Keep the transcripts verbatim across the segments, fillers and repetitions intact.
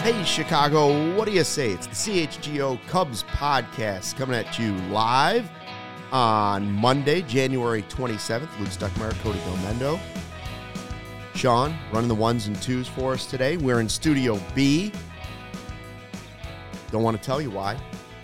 Hey, Chicago, what do you say? It's the C H G O Cubs podcast coming at you live on Monday, January twenty-seventh. Luke Stuckmeyer, Cody Gomendo. Sean running the ones and twos for us today. We're in Studio B. Don't want to tell you why.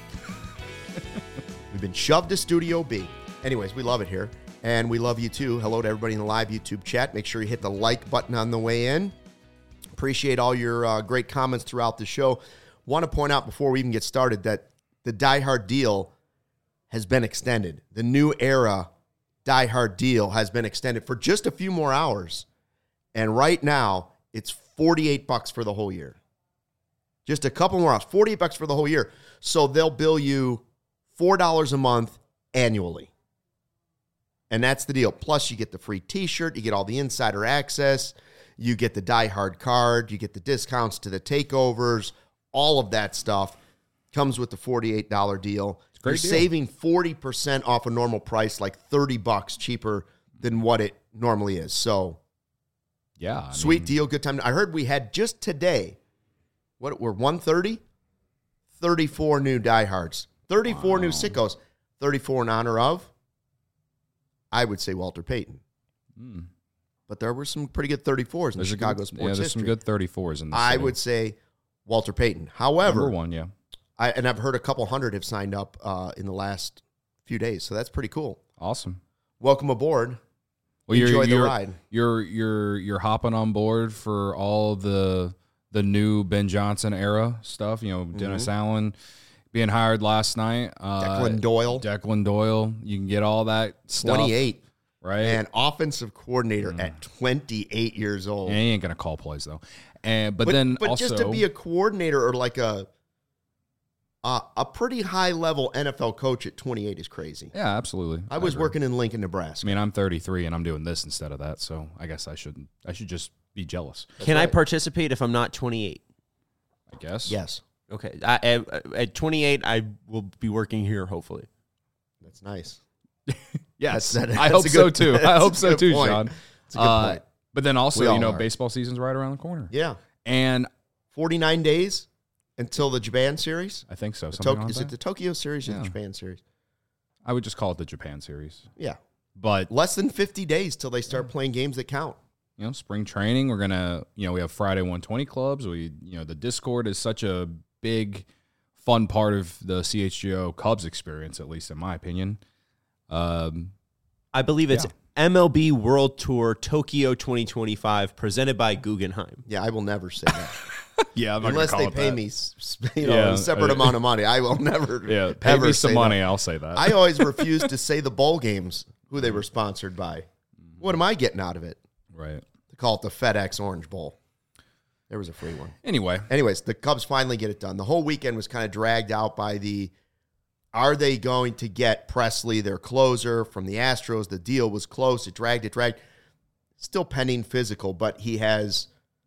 We've been shoved to Studio B. Anyways, we love it here, and we love you too. Hello to everybody in the live YouTube chat. Make sure you hit the like button on the way in. Appreciate all your uh, great comments throughout the show. Want to point out before we even get started that the Die Hard deal has been extended. The new era Die Hard deal has been extended for just a few more hours. And right now, it's forty-eight bucks for the whole year. Just a couple more hours, forty-eight bucks for the whole year. So they'll bill you four dollars a month annually. And that's the deal. Plus, you get the free t-shirt, you get all the insider access, you get the Die Hard card, you get the discounts to the takeovers, all of that stuff comes with the forty-eight dollars deal. You're deal. Saving forty percent off a normal price, like thirty bucks cheaper than what it normally is. So, yeah, I sweet mean, deal, good time. I heard we had just today, what, we're one thirty? thirty-four new Die Hards. thirty-four wow. new sickos. thirty-four in honor of, I would say, Walter Payton. Hmm. But there were some pretty good thirty-fours in there's Chicago good, sports yeah, there's history. some good thirty-fours in this I city. would say Walter Payton. However, Number one, yeah. I, and I've heard a couple hundred have signed up uh, in the last few days, so that's pretty cool. Awesome. Welcome aboard. Well, Enjoy you're, the you're, ride. You're you're you're hopping on board for all the the new Ben Johnson era stuff. You know, mm-hmm. Dennis Allen being hired last night. Uh, Declan Doyle. Declan Doyle. You can get all that stuff. twenty-eight. Right. And offensive coordinator mm. at twenty-eight years old. Yeah, he ain't going to call plays, though. And But, but then But also, just to be a coordinator or like a uh, a pretty high-level N F L coach at twenty-eight is crazy. Yeah, absolutely. I was I working in Lincoln, Nebraska. I mean, I'm thirty-three, and I'm doing this instead of that, so I guess I shouldn't. I should just be jealous. That's Can right. I participate if I'm not twenty-eight? I guess. Yes. Okay. I, at, at twenty-eight, I will be working here, hopefully. That's nice. Yes, that's, that, I that's hope good, so too. I hope so too, point. Sean. That's a good uh, point. But then also, We you know, are. baseball season's right around the corner. Yeah. And forty-nine days until the Japan series? I think so. The Something to- like is that? it the Tokyo series or Yeah. the Japan series? I would just call it the Japan series. Yeah. But less than fifty days till they start playing games that count. You know, spring training, we're going to, you know, we have Friday one twenty clubs. We, you know, the Discord is such a big, fun part of the C H G O Cubs experience, at least in my opinion. Um, I believe it's yeah. M L B World Tour Tokyo twenty twenty-five presented by Guggenheim. Yeah, I will never say that. yeah, I'm not unless gonna they call pay it me, you know, Yeah, a separate uh, amount of money. I will never. Yeah, pay ever me some say money. that. I'll say that. I always refuse to say the bowl games who they were sponsored by. What am I getting out of it? Right. To call it the FedEx Orange Bowl. There was a free one. Anyway. Anyways, the Cubs finally get it done. The whole weekend was kind of dragged out by the, are they going to get Presley, their closer, from the Astros? The deal was close. It dragged, it dragged. Still pending physical, but he has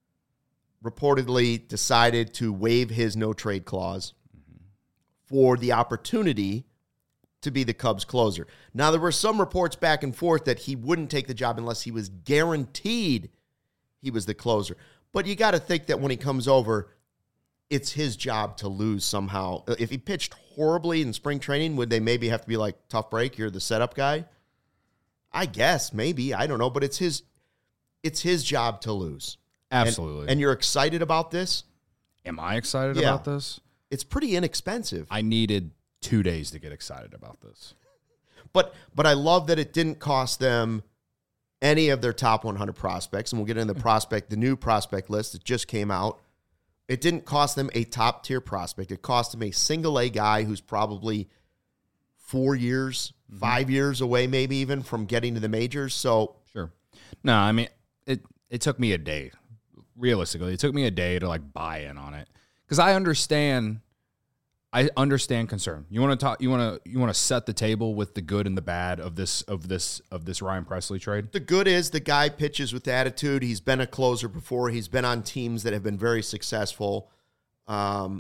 reportedly decided to waive his no-trade clause mm-hmm. for the opportunity to be the Cubs closer. Now, there were some reports back and forth that he wouldn't take the job unless he was guaranteed he was the closer. But you got to think that when he comes over, it's his job to lose somehow. If he pitched horribly in spring training, would they maybe have to be like, tough break, you're the setup guy? I guess, maybe. I don't know. But it's his it's his job to lose. Absolutely. And, and you're excited about this? Am I excited Yeah. about this? It's pretty inexpensive. I needed two days to get excited about this. But but I love that it didn't cost them any of their top one hundred prospects. And we'll get into the prospect, the new prospect list that just came out. It didn't cost them a top-tier prospect. It cost them a single-A guy who's probably four years, mm-hmm. five years away maybe even from getting to the majors. So Sure. No, I mean, it, it took me a day. Realistically, it took me a day to, like, buy in on it. Because I understand... I understand concern. You want to talk. You want to. You want to set the table with the good and the bad of this. Of this. Of this Ryan Presley trade. The good is the guy pitches with attitude. He's been a closer before. He's been on teams that have been very successful, um,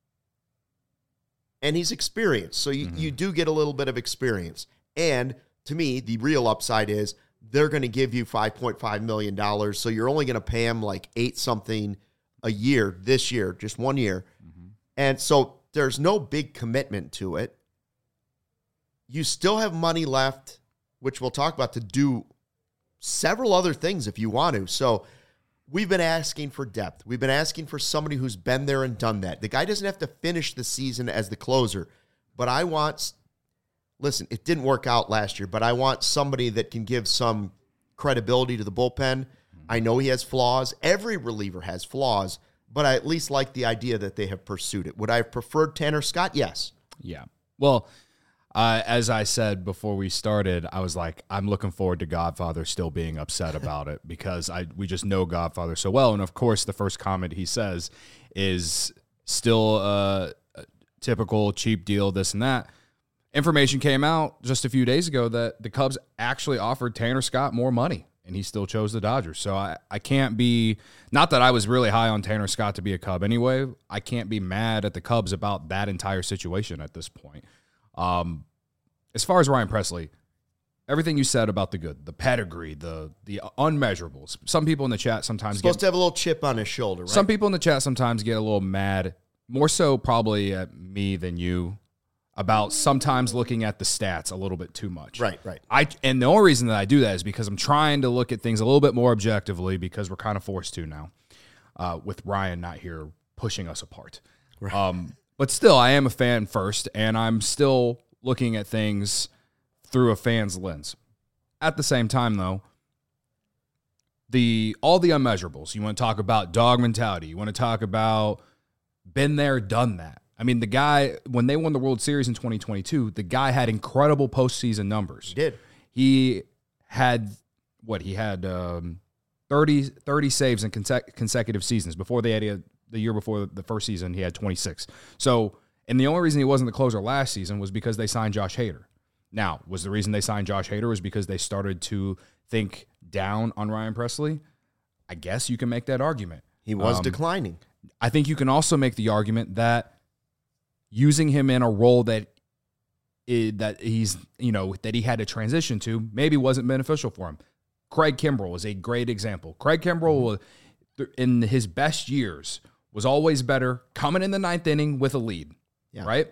and he's experienced. So you, mm-hmm. you do get a little bit of experience. And to me, the real upside is they're going to give you five point five million dollars. So you're only going to pay him like eight something a year this year, just one year. Mm-hmm. And so there's no big commitment to it. You still have money left, which we'll talk about, to do several other things if you want to. So we've been asking for depth. We've been asking for somebody who's been there and done that. The guy doesn't have to finish the season as the closer, but I want, listen, it didn't work out last year, but I want somebody that can give some credibility to the bullpen. I know he has flaws. Every reliever has flaws, but I at least like the idea that they have pursued it. Would I have preferred Tanner Scott? Yes. Yeah. Well, Uh, as I said before we started, I was like, I'm looking forward to Godfather still being upset about it because I we just know Godfather so well. And, of course, the first comment he says is still a, a typical cheap deal, this and that. Information came out just a few days ago that the Cubs actually offered Tanner Scott more money, and he still chose the Dodgers. So I, I can't be – not that I was really high on Tanner Scott to be a Cub anyway. I can't be mad at the Cubs about that entire situation at this point. Um, as far as Ryan Pressly, everything you said about the good, the pedigree, the the unmeasurables. Some people in the chat sometimes supposed get, to have a little chip on his shoulder, right? Some people in the chat sometimes get a little mad, more so probably at me than you, about sometimes looking at the stats a little bit too much. Right, right. I and the only reason that I do that is because I'm trying to look at things a little bit more objectively because we're kind of forced to now, uh, with Ryan not here pushing us apart. Right. Um, But still, I am a fan first, and I'm still looking at things through a fan's lens. At the same time, though, the all the unmeasurables. You want to talk about dog mentality. You want to talk about been there, done that. I mean, the guy, when they won the World Series in twenty twenty-two, the guy had incredible postseason numbers. He did. He had, what, he had um, thirty, thirty saves in consec- consecutive seasons. Before they had a The year before the first season, he had twenty-six. So, and the only reason he wasn't the closer last season was because they signed Josh Hader. Now, was the reason they signed Josh Hader was because they started to think down on Ryan Pressly? I guess you can make that argument. He was um, declining. I think you can also make the argument that using him in a role that is, that he's, you know, that he had to transition to maybe wasn't beneficial for him. Craig Kimbrell is a great example. Craig Kimbrell, mm-hmm. in his best years, was always better coming in the ninth inning with a lead, yeah. right?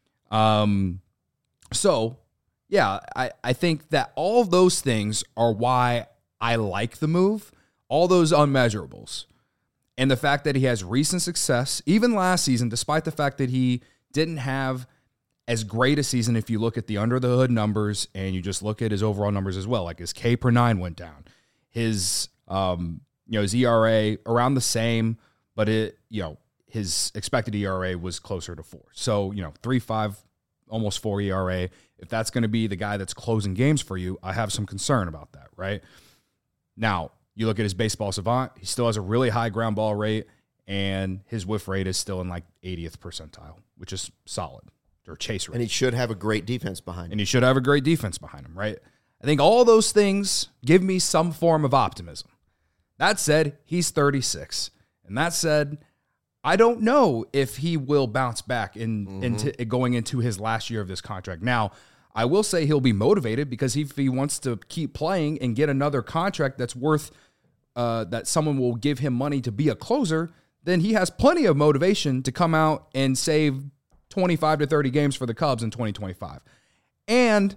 Um, so, yeah, I, I think that all of those things are why I like the move, all those unmeasurables. And the fact that he has recent success, even last season, despite the fact that he didn't have as great a season if you look at the under-the-hood numbers and you just look at his overall numbers as well. Like his K per nine went down. His, um, you know, his E R A around the same, but it, you know, his expected E R A was closer to four. So, you know, three five, almost four E R A. If that's going to be the guy that's closing games for you, I have some concern about that, right? Now, you look at his baseball savant, he still has a really high ground ball rate, and his whiff rate is still in like eightieth percentile, which is solid, or chase rate. And he should have a great defense behind him. And he should have a great defense behind him, right? I think all those things give me some form of optimism. That said, he's thirty-six. And that said, I don't know if he will bounce back in mm-hmm. into going into his last year of this contract. Now, I will say he'll be motivated because if he wants to keep playing and get another contract that's worth uh, that someone will give him money to be a closer, then he has plenty of motivation to come out and save twenty-five to thirty games for the Cubs in twenty twenty-five. And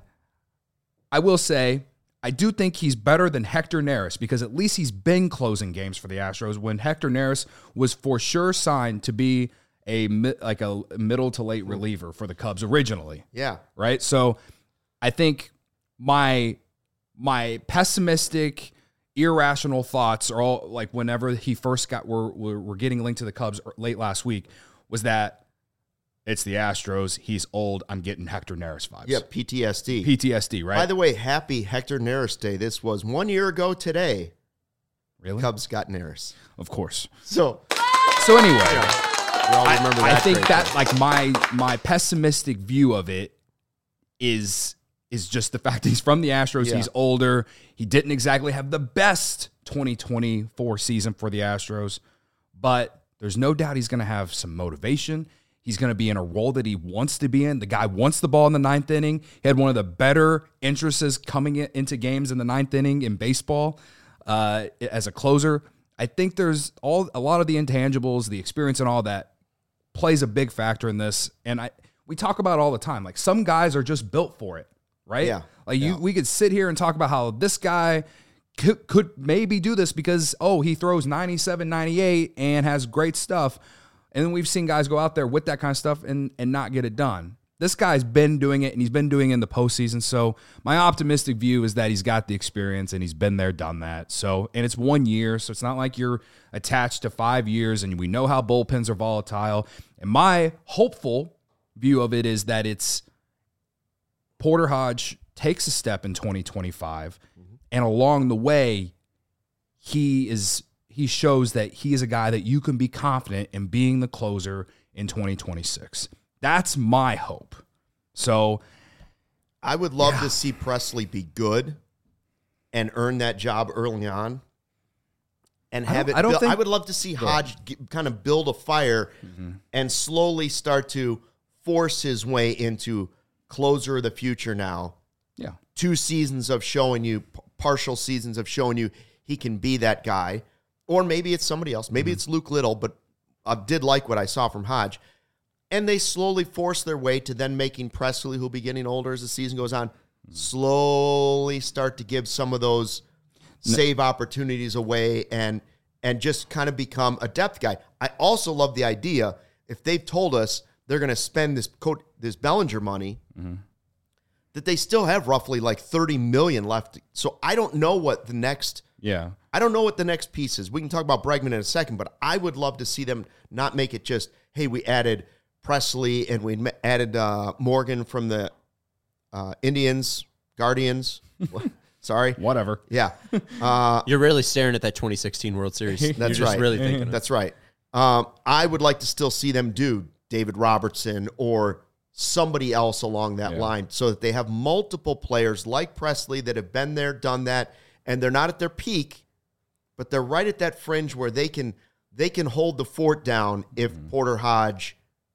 I will say, I do think he's better than Hector Neris because at least he's been closing games for the Astros when Hector Neris was for sure signed to be a like a middle to late reliever for the Cubs originally. Yeah. Right? So I think my my pessimistic, irrational thoughts are all like whenever he first got were were, were getting linked to the Cubs late last week was that it's the Astros. He's old. I'm getting Hector Neris vibes. Yeah, P T S D. P T S D, right? By the way, happy Hector Neris Day. This was one year ago today. Really? Cubs got Neris. Of course. So, so anyway, yeah, we all remember I, that I think that thing. like my my pessimistic view of it is is just the fact that he's from the Astros. Yeah. He's older. He didn't exactly have the best twenty twenty-four season for the Astros, but there's no doubt he's going to have some motivation. He's going to be in a role that he wants to be in. The guy wants the ball in the ninth inning. He had one of the better entrances coming into games in the ninth inning in baseball uh, as a closer. I think there's all a lot of the intangibles, the experience and all that plays a big factor in this. And I we talk about it all the time. Like some guys are just built for it, right? Yeah. Like you Yeah. we could sit here and talk about how this guy could, could maybe do this because, oh, he throws ninety-seven, ninety-eight and has great stuff. And then we've seen guys go out there with that kind of stuff and, and not get it done. This guy's been doing it, and he's been doing it in the postseason. So my optimistic view is that he's got the experience, and he's been there, done that. So, and it's one year, so it's not like you're attached to five years, and we know how bullpens are volatile. And my hopeful view of it is that it's Porter Hodge takes a step in twenty twenty-five, mm-hmm. and along the way, he is he shows that he is a guy that you can be confident in being the closer in twenty twenty-six. That's my hope. So I would love Yeah. to see Presley be good and earn that job early on and I have don't- it I don't built- think- I would love to see Hodge get, kind of build a fire and slowly start to force his way into closer of the future now. yeah, Two seasons of showing you, p- partial seasons of showing you he can be that guy. Or maybe it's somebody else. Maybe it's Luke Little, but I did like what I saw from Hodge. And they slowly force their way to then making Presley, who'll be getting older as the season goes on, slowly start to give some of those save opportunities away and and just kind of become a depth guy. I also love the idea, if they've told us they're going to spend this coat, this Bellinger money, that they still have roughly like thirty million dollars left. So I don't know what the next yeah. I don't know what the next piece is. We can talk about Bregman in a second, but I would love to see them not make it just, hey, we added Presley and we added uh, Morgan from the uh, Indians, Guardians. Sorry. Whatever. Yeah. Uh, You're really staring at that twenty sixteen World Series. You're That's just right. really thinking of it. That's right. Um, I would like to still see them do David Robertson or somebody else along that Yeah. line so that they have multiple players like Presley that have been there, done that, and they're not at their peak, but they're right at that fringe where they can they can hold the fort down if Mm-hmm. Porter Hodge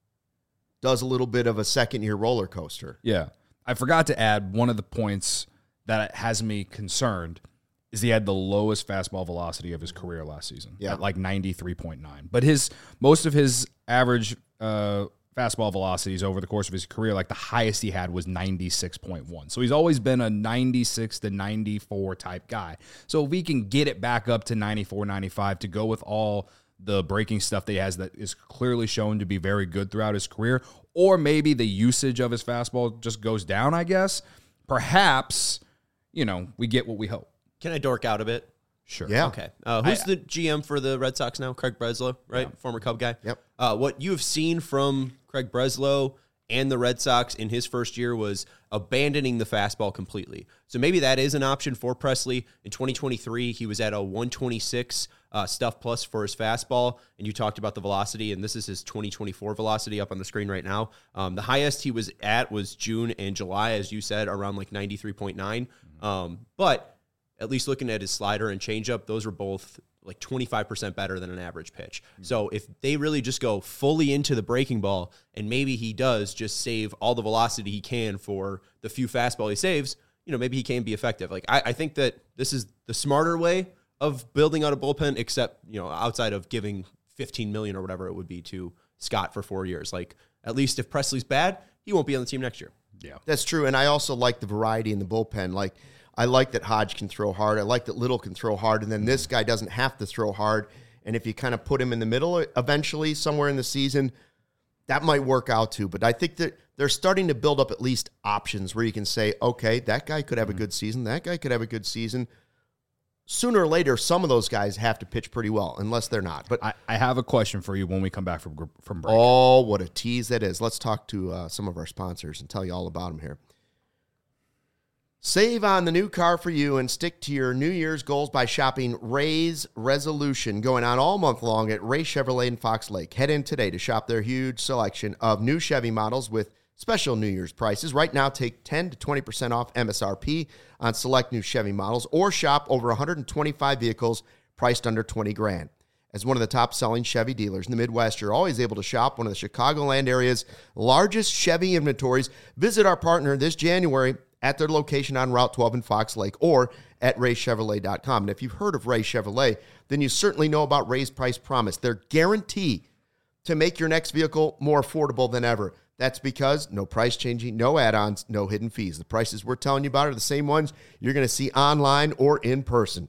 does a little bit of a second-year roller coaster. Yeah. I forgot to add one of the points that has me concerned is he had the lowest fastball velocity of his career last season Yeah. at like ninety-three point nine. But his most of his average uh, fastball velocities over the course of his career, like the highest he had was ninety-six point one. So he's always been a ninety-six to ninety-four type guy. So if we can get it back up to ninety-four, ninety-five to go with all the breaking stuff that he has that is clearly shown to be very good throughout his career, or maybe the usage of his fastball just goes down, I guess, perhaps, you know, we get what we hope. Can I dork out a bit? Sure. Yeah. Okay. Uh, who's I- the G M for the Red Sox now? Craig Breslow, right? Former Cub guy. Yep. Uh, what you have seen from Craig Breslow and the Red Sox in his first year was abandoning the fastball completely. So maybe that is an option for Presley. In twenty twenty-three, he was at a one twenty-six uh, stuff plus for his fastball, and you talked about the velocity, and this is his twenty twenty-four velocity up on the screen right now. Um, the highest he was at was June and July, as you said, around like ninety-three point nine. Um, but at least looking at his slider and changeup, those were both like twenty-five percent better than an average pitch. So if they really just go fully into the breaking ball, and maybe he does just save all the velocity he can for the few fastball he saves, you know, maybe he can be effective. Like I, I think that this is the smarter way of building out a bullpen, except, you know, outside of giving fifteen million dollars or whatever it would be to Scott for four years. Like at least if Presley's bad, he won't be on the team next year. Yeah. That's true, and I also like the variety in the bullpen. Like, I like that Hodge can throw hard. I like that Little can throw hard, and then this guy doesn't have to throw hard. And if you kind of put him in the middle eventually, somewhere in the season, that might work out too. But I think that they're starting to build up at least options where you can say, okay, that guy could have a good season. That guy could have a good season. Sooner or later, some of those guys have to pitch pretty well, unless they're not. But I, I have a question for you when we come back from gr- from break. oh, what a tease that is. Let's talk to uh, some of our sponsors and tell you all about them here. Save on the new car for you and stick to your New Year's goals by shopping Ray's Resolution, going on all month long at Ray Chevrolet in Fox Lake. Head in today to shop their huge selection of new Chevy models with special New Year's prices. Right now, take ten to twenty percent off M S R P on select new Chevy models or shop over one hundred twenty-five vehicles priced under twenty grand. As one of the top-selling Chevy dealers in the Midwest, you're always able to shop one of the Chicagoland area's largest Chevy inventories. Visit our partner this January at their location on Route twelve in Fox Lake or at ray chevrolet dot com. And if you've heard of Ray Chevrolet, then you certainly know about Ray's Price Promise. Their guarantee to make your next vehicle more affordable than ever. That's because no price changing, no add-ons, no hidden fees. The prices we're telling you about are the same ones you're going to see online or in person.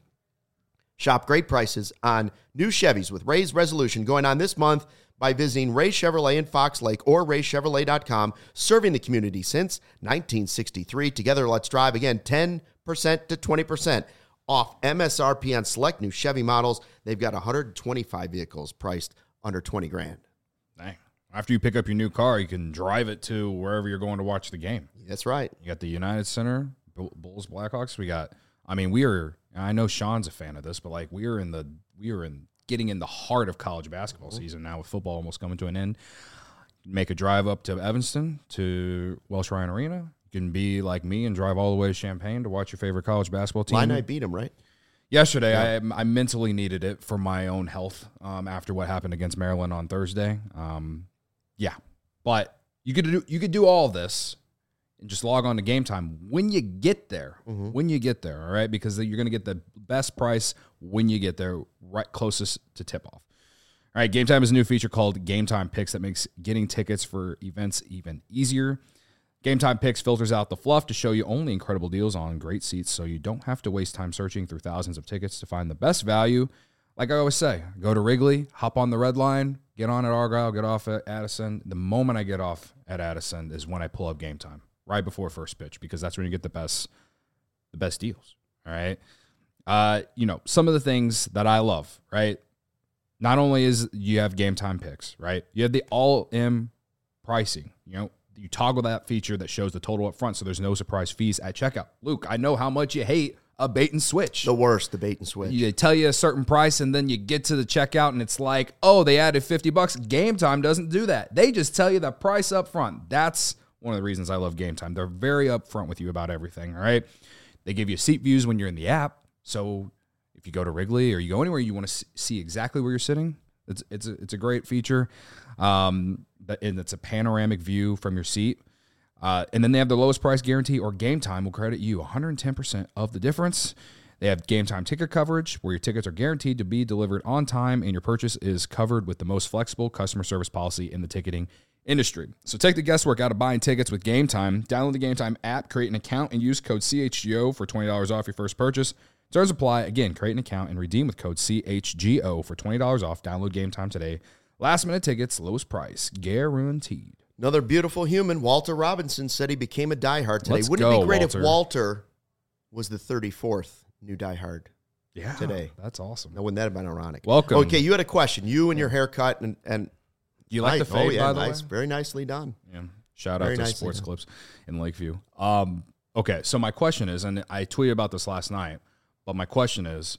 Shop great prices on new Chevys with Ray's Resolution going on this month by visiting Ray Chevrolet in Fox Lake or ray chevrolet dot com, serving the community since nineteen sixty-three. Together, let's drive. Again, ten percent to twenty percent off M S R P on select new Chevy models. They've got one hundred twenty-five vehicles priced under twenty grand. Dang. After you pick up your new car, you can drive it to wherever you're going to watch the game. That's right. You got the United Center, Bulls, Blackhawks. We got, I mean, we are, I know Sean's a fan of this, but like we are in the, we are in getting in the heart of college basketball mm-hmm. season now with football almost coming to an end. Make a drive up to Evanston to Welsh Ryan Arena. You can be like me and drive all the way to Champaign to watch your favorite college basketball team. Illini beat them, right? Yesterday, yeah. I I mentally needed it for my own health um, after what happened against Maryland on Thursday. Um, yeah, but you could do you could do all this and just log on to Game Time when you get there. Mm-hmm. When you get there, all right, because you're going to get the best price when you get there, right closest to tip off. All right, Game Time is a new feature called Game Time Picks that makes getting tickets for events even easier. Game Time Picks filters out the fluff to show you only incredible deals on great seats so you don't have to waste time searching through thousands of tickets to find the best value. Like I always say, go to Wrigley, hop on the red line, get on at Argyle, get off at Addison. The moment I get off at Addison is when I pull up Game Time, right before first pitch, because that's when you get the best the best deals, all right? Uh, you know, some of the things that I love, right? Not only is you have Game Time Picks, right? You have the all-in pricing, you know, you toggle that feature that shows the total up front so there's no surprise fees at checkout. Luke, I know how much you hate a bait and switch. The worst, the bait and switch. They tell you a certain price and then you get to the checkout and it's like, oh, they added fifty bucks. Game Time doesn't do that. They just tell you the price up front. That's one of the reasons I love Game Time. They're very upfront with you about everything, all right? They give you seat views when you're in the app. So if you go to Wrigley or you go anywhere, you want to see exactly where you're sitting. It's it's a, it's a great feature. Um, and it's a panoramic view from your seat. Uh, and then they have the lowest price guarantee, or Game Time will credit you one hundred ten percent of the difference. They have Game Time ticket coverage, where your tickets are guaranteed to be delivered on time and your purchase is covered with the most flexible customer service policy in the ticketing industry. So take the guesswork out of buying tickets with Game Time. Download the Game Time app, create an account, and use code C H G O for twenty dollars off your first purchase. Terms apply. Again, create an account and redeem with code C H G O for twenty dollars off. Download Game Time today. Last minute tickets, lowest price, guaranteed. Another beautiful human, Walter Robinson, said he became a diehard today. Let's Wouldn't go, it be great Walter. if Walter was the thirty-fourth new diehard yeah, today? That's awesome. Now, wouldn't that have been ironic? Welcome. Okay, you had a question. You and your haircut and and you like nice. the fade, oh, yeah, by the nice. way? Very nicely done. Yeah. Shout Very out to nicely Sports done. Clips in Lakeview. Um, okay, so my question is, and I tweeted about this last night, but my question is,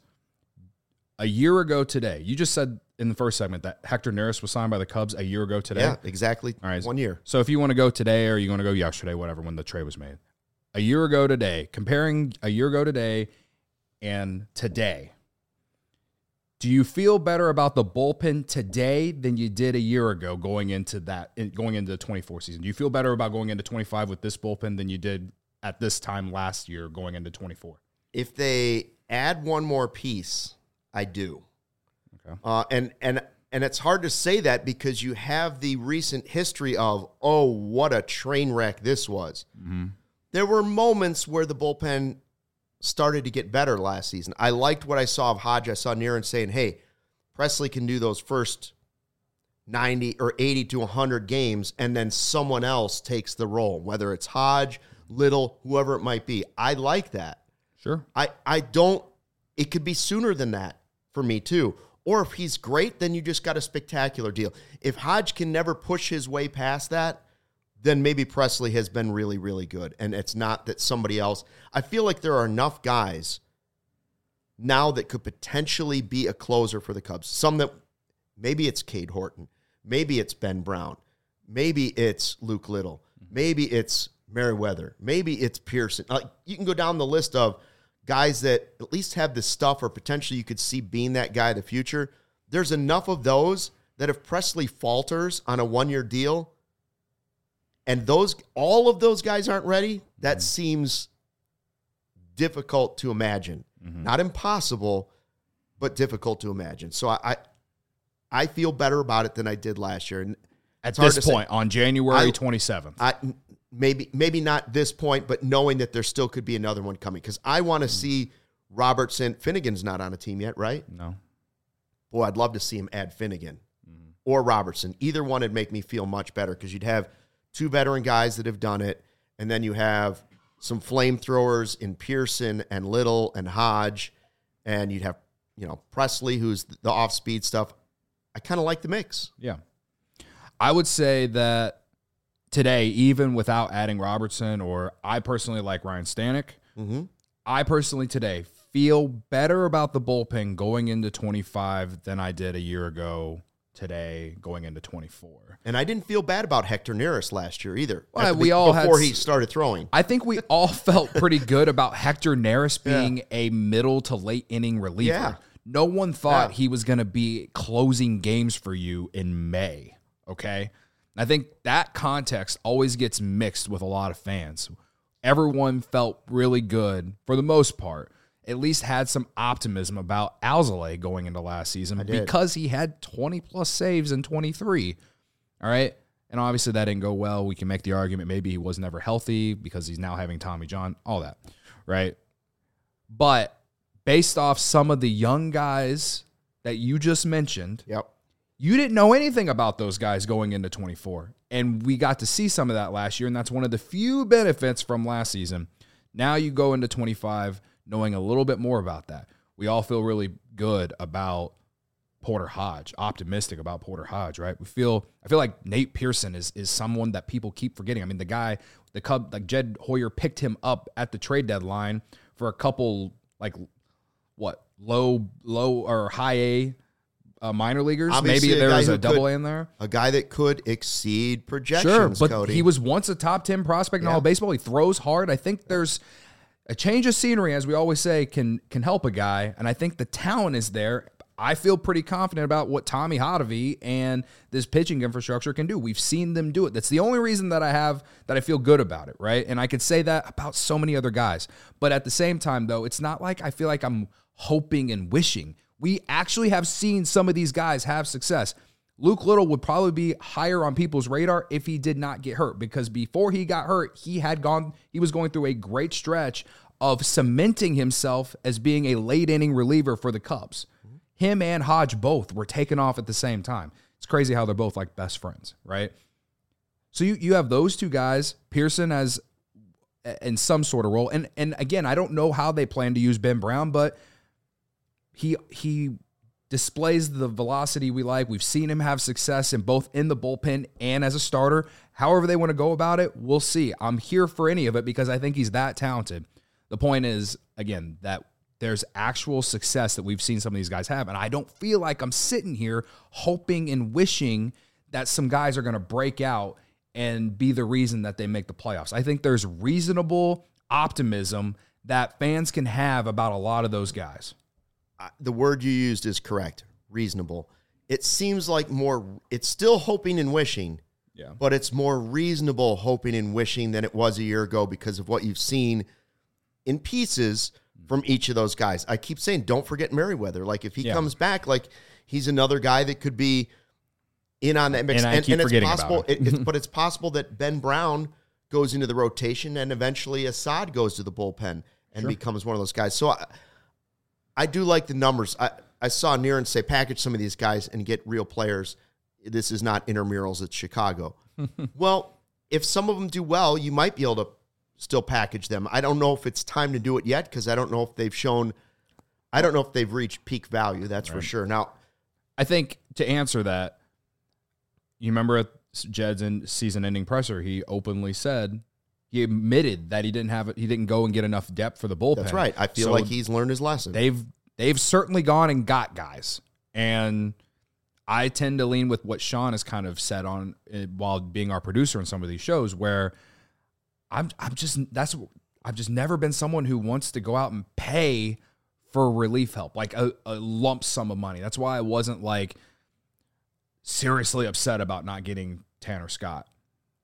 a year ago today, you just said in the first segment that Hector Neris was signed by the Cubs a year ago today. Yeah, exactly. All right. One year. So if you want to go today or you want to go yesterday, whatever, when the trade was made, a year ago today, comparing a year ago today and today, do you feel better about the bullpen today than you did a year ago going into that, going into the twenty-four season? Do you feel better about going into twenty-five with this bullpen than you did at this time last year going into twenty-four? If they add one more piece, I do. Okay. Uh, and and and it's hard to say that because you have the recent history of, oh, what a train wreck this was. Mm-hmm. There were moments where the bullpen started to get better last season. I liked what I saw of Hodge. I saw Niren saying, hey, Presley can do those first ninety or eighty to one hundred games, and then someone else takes the role, whether it's Hodge, Little, whoever it might be. I like that. Sure. I, I don't, it could be sooner than that for me too. Or if he's great, then you just got a spectacular deal. If Hodge can never push his way past that, then maybe Presley has been really, really good. And it's not that somebody else. I feel like there are enough guys now that could potentially be a closer for the Cubs. Some that, maybe it's Cade Horton. Maybe it's Ben Brown. Maybe it's Luke Little. Maybe it's Merriweather. Maybe it's Pearson. Like, you can go down the list of guys that at least have the stuff or potentially you could see being that guy in the future. There's enough of those that if Presley falters on a one-year deal, and those all of those guys aren't ready, that mm-hmm. seems difficult to imagine. Mm-hmm. Not impossible, but difficult to imagine. So I, I I feel better about it than I did last year. And at this point, say. on January twenty-seventh. I, maybe maybe not this point, but knowing that there still could be another one coming. Because I want to mm-hmm. see Robertson. Finnegan's not on a team yet, right? No. Boy, I'd love to see him add Finnegan mm-hmm. or Robertson. Either one would make me feel much better because you'd have two veteran guys that have done it, and then you have some flamethrowers in Pearson and Little and Hodge, and you'd have, you know, Presley, who's the off-speed stuff. I kind of like the mix. Yeah. I would say that today, even without adding Robertson, or I personally like Ryan Stanek, mm-hmm. I personally today feel better about the bullpen going into twenty-five than I did a year ago today going into twenty-four. And I didn't feel bad about Hector Neris last year either. Well, we all before had, he started throwing. I think we all felt pretty good about Hector Neris being yeah. a middle to late inning reliever. Yeah. No one thought yeah. he was going to be closing games for you in May, okay? I think that context always gets mixed with a lot of fans. Everyone felt really good, for the most part, at least had some optimism about Alzolay going into last season because he had twenty-plus saves in twenty-three, all right? And obviously that didn't go well. We can make the argument maybe he was never healthy because he's now having Tommy John, all that, right? But based off some of the young guys that you just mentioned, yep. you didn't know anything about those guys going into twenty-four. And we got to see some of that last year, and that's one of the few benefits from last season. Now you go into twenty-five knowing a little bit more about that. We all feel really good about Porter Hodge, optimistic about Porter Hodge, right? We feel, I feel like Nate Pearson is is someone that people keep forgetting. I mean, the guy, the Cub, like Jed Hoyer picked him up at the trade deadline for a couple, like, what, low, low or high A uh, minor leaguers. Obviously Maybe there was a double could, A in there. A guy that could exceed projections, Sure, but Cody. he was once a top ten prospect in yeah. all of baseball. He throws hard. I think there's a change of scenery, as we always say, can can help a guy, and I think the talent is there. I feel pretty confident about what Tommy Hotovy and this pitching infrastructure can do. We've seen them do it. That's the only reason that I have that I feel good about it, right? And I could say that about so many other guys. But at the same time, though, it's not like I feel like I'm hoping and wishing. We actually have seen some of these guys have success. Luke Little would probably be higher on people's radar if he did not get hurt, because before he got hurt, he had gone, he was going through a great stretch of cementing himself as being a late inning reliever for the Cubs. Him and Hodge both were taken off at the same time. It's crazy how they're both like best friends, right? So you, you have those two guys, Pearson as in some sort of role. And and again, I don't know how they plan to use Ben Brown, but he he displays the velocity we like. We've seen him have success in both in the bullpen and as a starter. However they want to go about it, we'll see. I'm here for any of it because I think he's that talented. The point is, again, that there's actual success that we've seen some of these guys have, and I don't feel like I'm sitting here hoping and wishing that some guys are going to break out and be the reason that they make the playoffs. I think there's reasonable optimism that fans can have about a lot of those guys. The word you used is correct, reasonable. It seems like more, it's still hoping and wishing, yeah, but it's more reasonable hoping and wishing than it was a year ago because of what you've seen in pieces from each of those guys. I keep saying, don't forget Merriweather. Like, if he yeah. comes back, like, he's another guy that could be in on that mix. And I and, keep and it's forgetting possible, about it. it, it's, but it's possible that Ben Brown goes into the rotation and eventually Assad goes to the bullpen and sure. becomes one of those guys. So I, I do like the numbers. I, I saw Niren say, package some of these guys and get real players. This is not intramurals, it's Chicago. Well, if some of them do well, you might be able to still package them. I don't know if it's time to do it yet because I don't know if they've shown, I don't know if they've reached peak value. That's right. for sure. Now, I think to answer that, you remember at Jed's in season-ending presser, he openly said, he admitted that he didn't have it. He didn't go and get enough depth for the bullpen. That's right. I feel so like he's learned his lesson. They've they've certainly gone and got guys, and I tend to lean with what Sean has kind of said on while being our producer in some of these shows, where I'm I'm just that's I've just never been someone who wants to go out and pay for relief help, like a, a lump sum of money. That's why I wasn't like seriously upset about not getting Tanner Scott.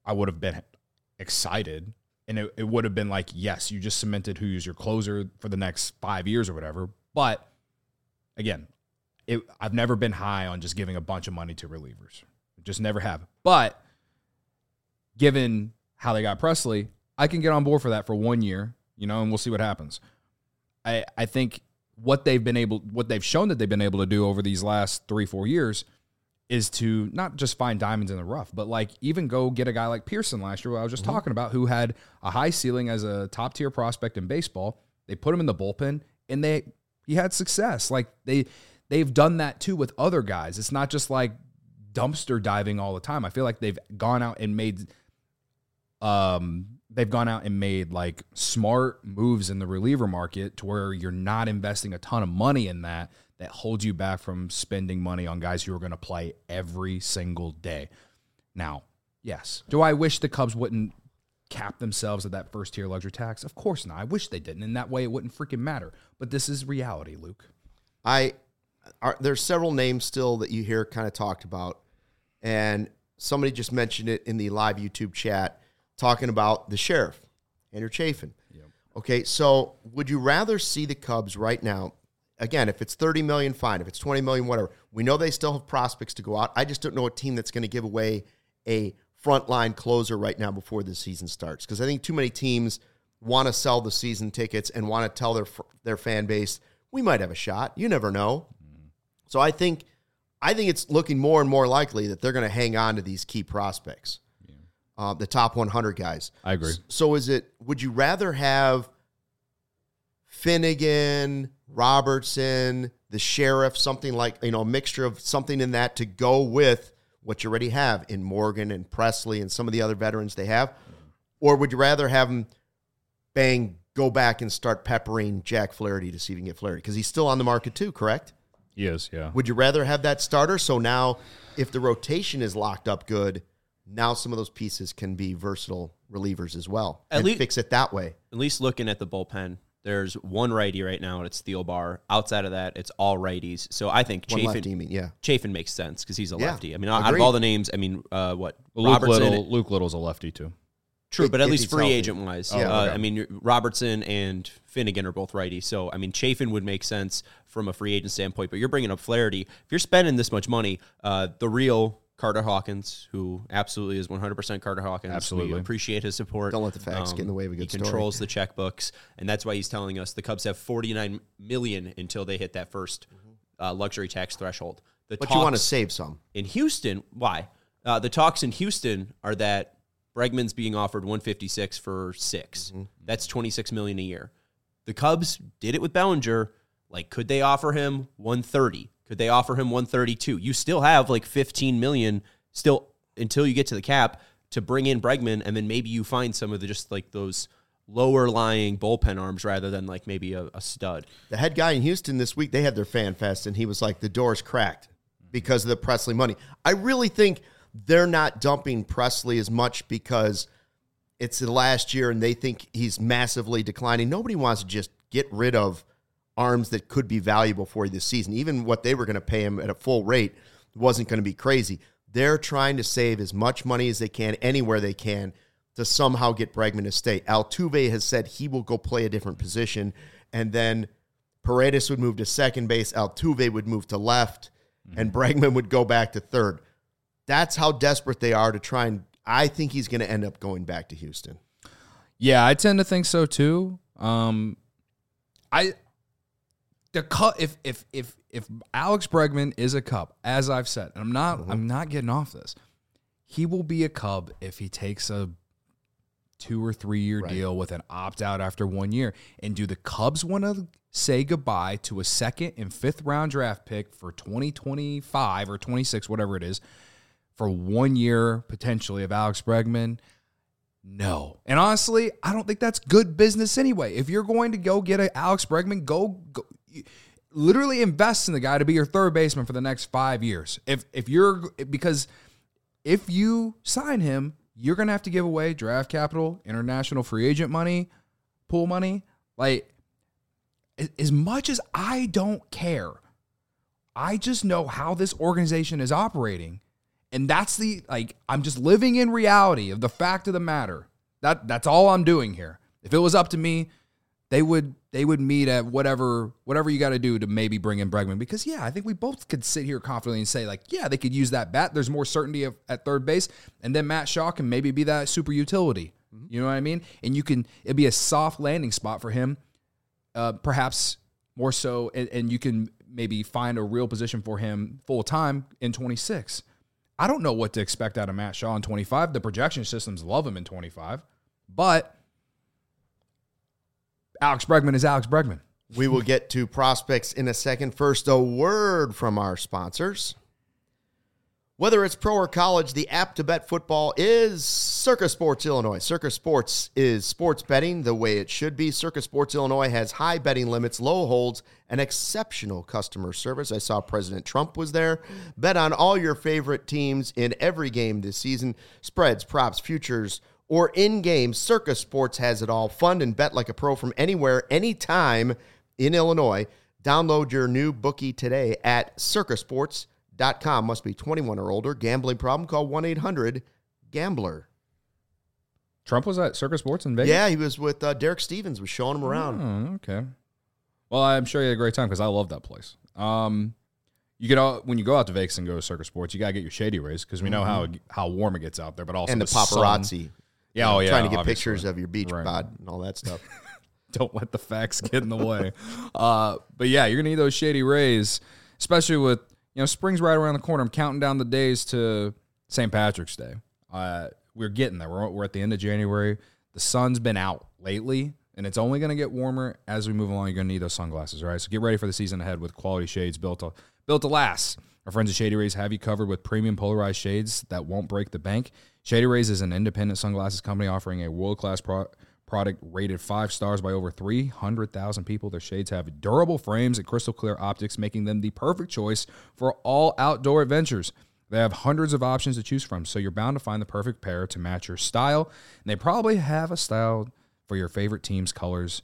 I would have been excited. And it, it would have been like, yes, you just cemented who's your closer for the next five years or whatever. But again, it, I've never been high on just giving a bunch of money to relievers. Just never have. But given how they got Pressly, I can get on board for that for one year, you know, and we'll see what happens. I, I think what they've been able, what they've shown that they've been able to do over these last three, four years is to not just find diamonds in the rough, but like even go get a guy like Pearson last year, who I was just mm-hmm. talking about, who had a high ceiling as a top tier prospect in baseball. They put him in the bullpen and they, he had success. Like they, they've done that too with other guys. It's not just like dumpster diving all the time. I feel like they've gone out and made, um, they've gone out and made like smart moves in the reliever market to where you're not investing a ton of money in that, that holds you back from spending money on guys who are going to play every single day. Now, yes. Do I wish the Cubs wouldn't cap themselves at that first tier luxury tax? Of course not. I wish they didn't. In that way, it wouldn't freaking matter. But this is reality, Luke. I are, there's several names still that you hear kind of talked about, and somebody just mentioned it in the live YouTube chat, talking about the sheriff, Andrew Chafin. Yep. Okay, so would you rather see the Cubs right now? Again, if it's thirty million dollars, fine. If it's twenty million dollars, whatever. We know they still have prospects to go out. I just don't know a team that's going to give away a frontline closer right now before the season starts, because I think too many teams want to sell the season tickets and want to tell their their fan base, we might have a shot. You never know. Mm-hmm. So I think I think it's looking more and more likely that they're going to hang on to these key prospects, yeah. uh, the top one hundred guys. I agree. So is it? Would you rather have Finnegan, Robertson, the sheriff, something like, you know, a mixture of something in that to go with what you already have in Morgan and Pressly and some of the other veterans they have? Or would you rather have them, bang, go back and start peppering Jack Flaherty to see if you can get Flaherty? Because he's still on the market too, correct? He is, yeah. Would you rather have that starter? So now if the rotation is locked up good, now some of those pieces can be versatile relievers as well. At and least, fix it that way. At least looking at the bullpen, there's one righty right now, and it's Thielbar. Outside of that, it's all righties. So I think one Chafin, lefty, you mean, yeah. Chafin makes sense because he's a yeah, lefty. I mean, out agreed. of all the names, I mean, uh, what? Well, Luke, Little, Luke Little's a lefty, too. True, but at least free agent-wise. Yeah, uh, okay. I mean, Robertson and Finnegan are both righties. So, I mean, Chafin would make sense from a free agent standpoint, but you're bringing up Flaherty. If you're spending this much money, uh, the real Carter Hawkins, who absolutely is one hundred percent Carter Hawkins. Absolutely. We appreciate his support. Don't let the facts um, get in the way of a good He story. controls the checkbooks, and that's why he's telling us the Cubs have forty-nine million dollars until they hit that first uh, luxury tax threshold. The but you want to save some. In Houston, why? Uh, the talks in Houston are that Bregman's being offered one fifty-six for six. Mm-hmm. That's twenty-six million dollars a year. The Cubs did it with Bellinger. Like, could they offer him one thirty? Could they offer him one thirty-two? You still have like fifteen million dollars still until you get to the cap to bring in Bregman, and then maybe you find some of the just like those lower lying bullpen arms rather than like maybe a, a stud. The head guy in Houston this week, they had their fan fest, and he was like, the door's cracked because of the Pressly money. I really think they're not dumping Pressly as much because it's the last year and they think he's massively declining. Nobody wants to just get rid of arms that could be valuable for you this season. Even what they were going to pay him at a full rate wasn't going to be crazy. They're trying to save as much money as they can anywhere they can to somehow get Bregman to stay. Altuve has said he will go play a different position, and then Paredes would move to second base, Altuve would move to left, mm-hmm. and Bregman would go back to third. That's how desperate they are to try, and I think he's going to end up going back to Houston. Yeah, I tend to think so too. Um, I the cut if if if if Alex Bregman is a Cub, as I've said, and I'm not mm-hmm. I'm not getting off this. He will be a Cub if he takes a two or three year right. deal with an opt out after one year. And do the Cubs want to say goodbye to a second and fifth round draft pick for twenty twenty-five or twenty-six, whatever it is, for one year potentially of Alex Bregman? No. And honestly, I don't think that's good business anyway. If you're going to go get an Alex Bregman, go, go literally invest in the guy to be your third baseman for the next five years. If if you're because if you sign him, you're gonna have to give away draft capital, international free agent money, pool money. Like, as much as I don't care, I just know how this organization is operating. And that's the, like, I'm just living in reality of the fact of the matter. That That's all I'm doing here. If it was up to me, they would they would meet at whatever whatever you got to do to maybe bring in Bregman. Because, yeah, I think we both could sit here confidently and say, like, yeah, they could use that bat. There's more certainty of, at third base. And then Matt Shaw can maybe be that super utility. Mm-hmm. You know what I mean? And you can, it'd be a soft landing spot for him, uh, perhaps more so. And, and you can maybe find a real position for him full time in twenty-six. I don't know what to expect out of Matt Shaw in twenty-five. The projection systems love him in twenty-five. But Alex Bregman is Alex Bregman. We will get to prospects in a second. First, a word from our sponsors. Whether it's pro or college, the app to bet football is Circa Sports Illinois. Circa Sports is sports betting the way it should be. Circa Sports Illinois has high betting limits, low holds, and exceptional customer service. I saw President Trump was there. Bet on all your favorite teams in every game this season. Spreads, props, futures, or in-game. Circa Sports has it all. Fund and bet like a pro from anywhere, anytime in Illinois. Download your new bookie today at circa sports dot com. Must be twenty-one or older. Gambling problem? Call one eight hundred gambler. Trump was at Circa Sports in Vegas? Yeah, he was with uh, Derek Stevens, was showing him around. Oh, okay. Well, I'm sure you had a great time because I love that place. Um, you get out, when you go out to Vegas and go to Circa Sports, you got to get your Shady Rays because we know mm-hmm. how how warm it gets out there, but also and the, the paparazzi. Sun. Yeah, oh, yeah, trying to get obviously. pictures of your beach right. bod and all that stuff. Don't let the facts get in the way. Uh, but yeah, you're gonna need those Shady Rays, especially with, you know, spring's right around the corner. I'm counting down the days to Saint Patrick's Day. Uh, we're getting there. We're, we're at the end of January. The sun's been out lately, and it's only going to get warmer as we move along. You're going to need those sunglasses, all right? So get ready for the season ahead with quality shades built to, built to last. Our friends at Shady Rays have you covered with premium polarized shades that won't break the bank. Shady Rays is an independent sunglasses company offering a world-class pro- product rated five stars by over three hundred thousand people. Their shades have durable frames and crystal clear optics, making them the perfect choice for all outdoor adventures. They have hundreds of options to choose from, so you're bound to find the perfect pair to match your style. And they probably have a style for your favorite team's colors.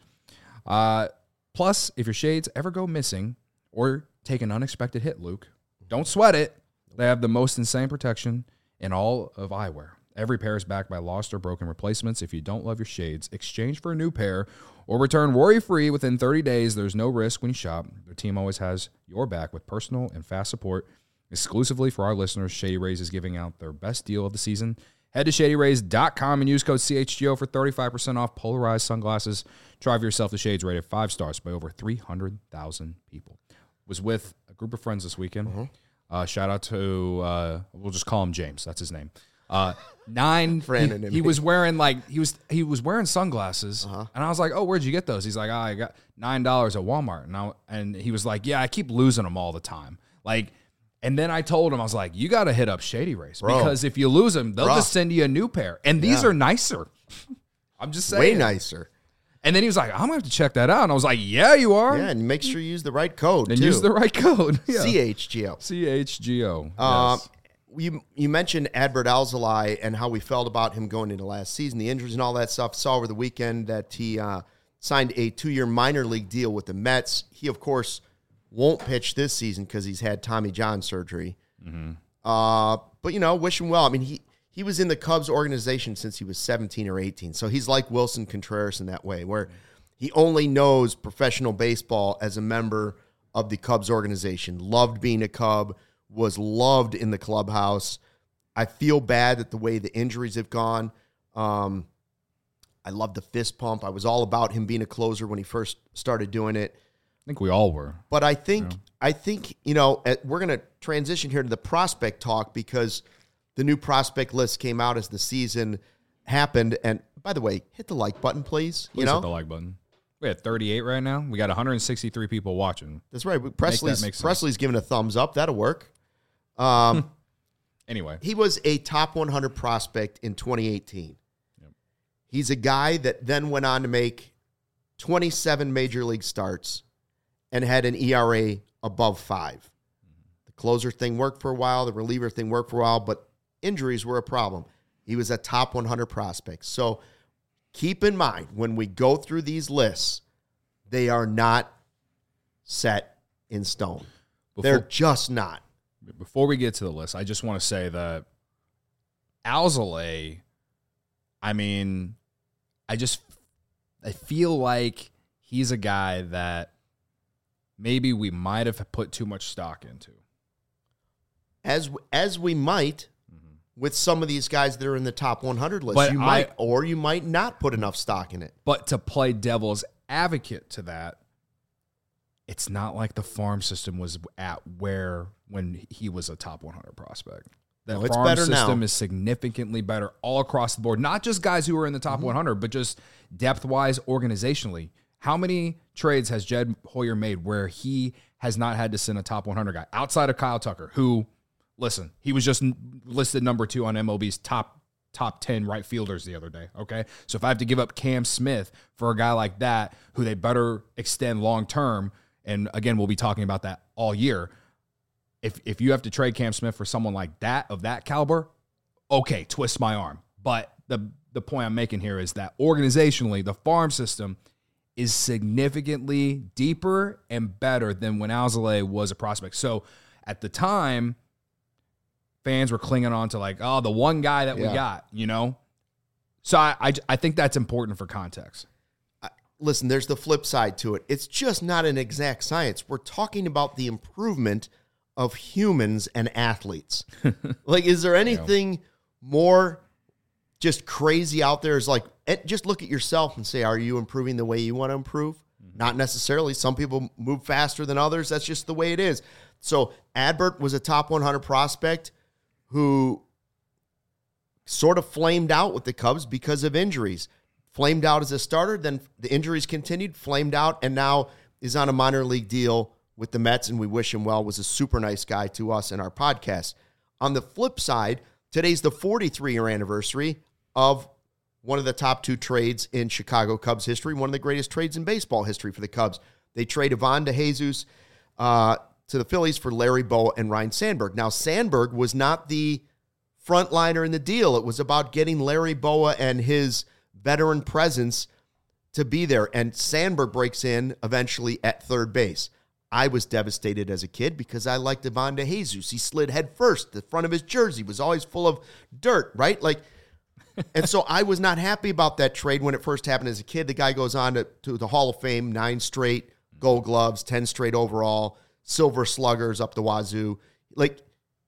Uh, plus, if your shades ever go missing or take an unexpected hit, Luke, don't sweat it. They have the most insane protection in all of eyewear. Every pair is backed by lost or broken replacements. If you don't love your shades, exchange for a new pair or return worry-free within thirty days. There's no risk when you shop. Their team always has your back with personal and fast support. Exclusively for our listeners, Shady Rays is giving out their best deal of the season. Head to shady rays dot com and use code C H G O for thirty-five percent off polarized sunglasses. Try for yourself the shades rated five stars by over three hundred thousand people. Was with a group of friends this weekend. Uh-huh. Uh, shout out to, uh, we'll just call him James. That's his name. Uh, nine. Brandon he, and he me. was wearing like he was he was wearing sunglasses, Uh-huh. and I was like, "Oh, where'd you get those?" He's like, "Oh, I got nine dollars at Walmart." And I, and he was like, "Yeah, I keep losing them all the time." Like, and then I told him, I was like, "You got to hit up Shady Rays Bro. because if you lose them, they'll Bro. just send you a new pair, and these Yeah. are nicer." I'm just saying, Way nicer. And then he was like, "I'm gonna have to check that out," and I was like, "Yeah, you are." Yeah, and make sure you use the right code, and too. use the right code. Yeah. C H G O. C H G O. Um, Yes. you you mentioned Adbert Alzolay and how we felt about him going into last season, the injuries and all that stuff. Saw over the weekend that he uh, signed a two-year minor league deal with the Mets. He, of course, won't pitch this season because he's had Tommy John surgery. Mm-hmm. Uh, but, you know, wish him well. I mean, he, he was in the Cubs organization since he was seventeen or eighteen. So he's like Wilson Contreras in that way, where he only knows professional baseball as a member of the Cubs organization. Loved being a Cub, was loved in the clubhouse. I feel bad that the way the injuries have gone. Um, I love the fist pump. I was all about him being a closer when he first started doing it. I think we all were. But I think, Yeah. I think you know, uh, we're going to transition here to the prospect talk because the new prospect list came out as the season happened. And by the way, hit the like button, please. Please you know, hit the like button. We had thirty-eight right now. We got one hundred sixty-three people watching. that's right. Presley's make sense. Presley's giving a thumbs up. That'll work. Um, Anyway, he was a top one hundred prospect in twenty eighteen. Yep. He's a guy that then went on to make twenty-seven major league starts and had an E R A above five. The closer thing worked for a while. The reliever thing worked for a while, but injuries were a problem. He was a top one hundred prospect. So keep in mind, when we go through these lists, they are not set in stone. before, They're just not. before we get to the list, I just want to say that Alzolay, I mean, I just I feel like he's a guy that maybe we might have put too much stock into. As as we might mm-hmm. with some of these guys that are in the top one hundred list. But you I, might, or you might not put enough stock in it. But to play devil's advocate to that, it's not like the farm system was at where when he was a top one hundred prospect. That no, it's farm better system now. is significantly better all across the board. Not just guys who are in the top mm-hmm. one hundred, but just depth-wise, organizationally. How many trades has Jed Hoyer made where he has not had to send a top one hundred guy outside of Kyle Tucker, who, listen, he was just listed number two on M L B's top top ten right fielders the other day, okay? So if I have to give up Cam Smith for a guy like that, who they better extend long-term, and again, we'll be talking about that all year, if if you have to trade Cam Smith for someone like that, of that caliber, okay, twist my arm. But the, the point I'm making here is that organizationally, the farm system is significantly deeper and better than when Alzolay was a prospect. So at the time, fans were clinging on to like, oh, the one guy that yeah. we got, you know? So I, I, I think that's important for context. Uh, listen, there's the flip side to it. It's just not an exact science. We're talking about the improvement of humans and athletes. Like, is there anything yeah. more just crazy out there? Is like, just look at yourself and say, are you improving the way you want to improve? Mm-hmm. Not necessarily. Some people move faster than others. That's just the way it is. So Adbert was a top one hundred prospect who sort of flamed out with the Cubs because of injuries. Flamed out as a starter, then the injuries continued, flamed out, and now is on a minor league deal with the Mets, and we wish him well. Was a super nice guy to us in our podcast. On the flip side, today's the forty-three-year anniversary of one of the top two trades in Chicago Cubs history, one of the greatest trades in baseball history for the Cubs. They trade Ivan DeJesus uh, to the Phillies for Larry Bowa and Ryne Sandberg. Now, Sandberg was not the frontliner in the deal. It was about getting Larry Bowa and his veteran presence to be there. And Sandberg breaks in eventually at third base. I was devastated as a kid because I liked Ivan DeJesus. He slid head first. The front of his jersey was always full of dirt, right? Like, and so I was not happy about that trade when it first happened as a kid. The guy goes on to, to the Hall of Fame, nine straight Gold Gloves, ten straight overall, Silver Sluggers up the wazoo. Like,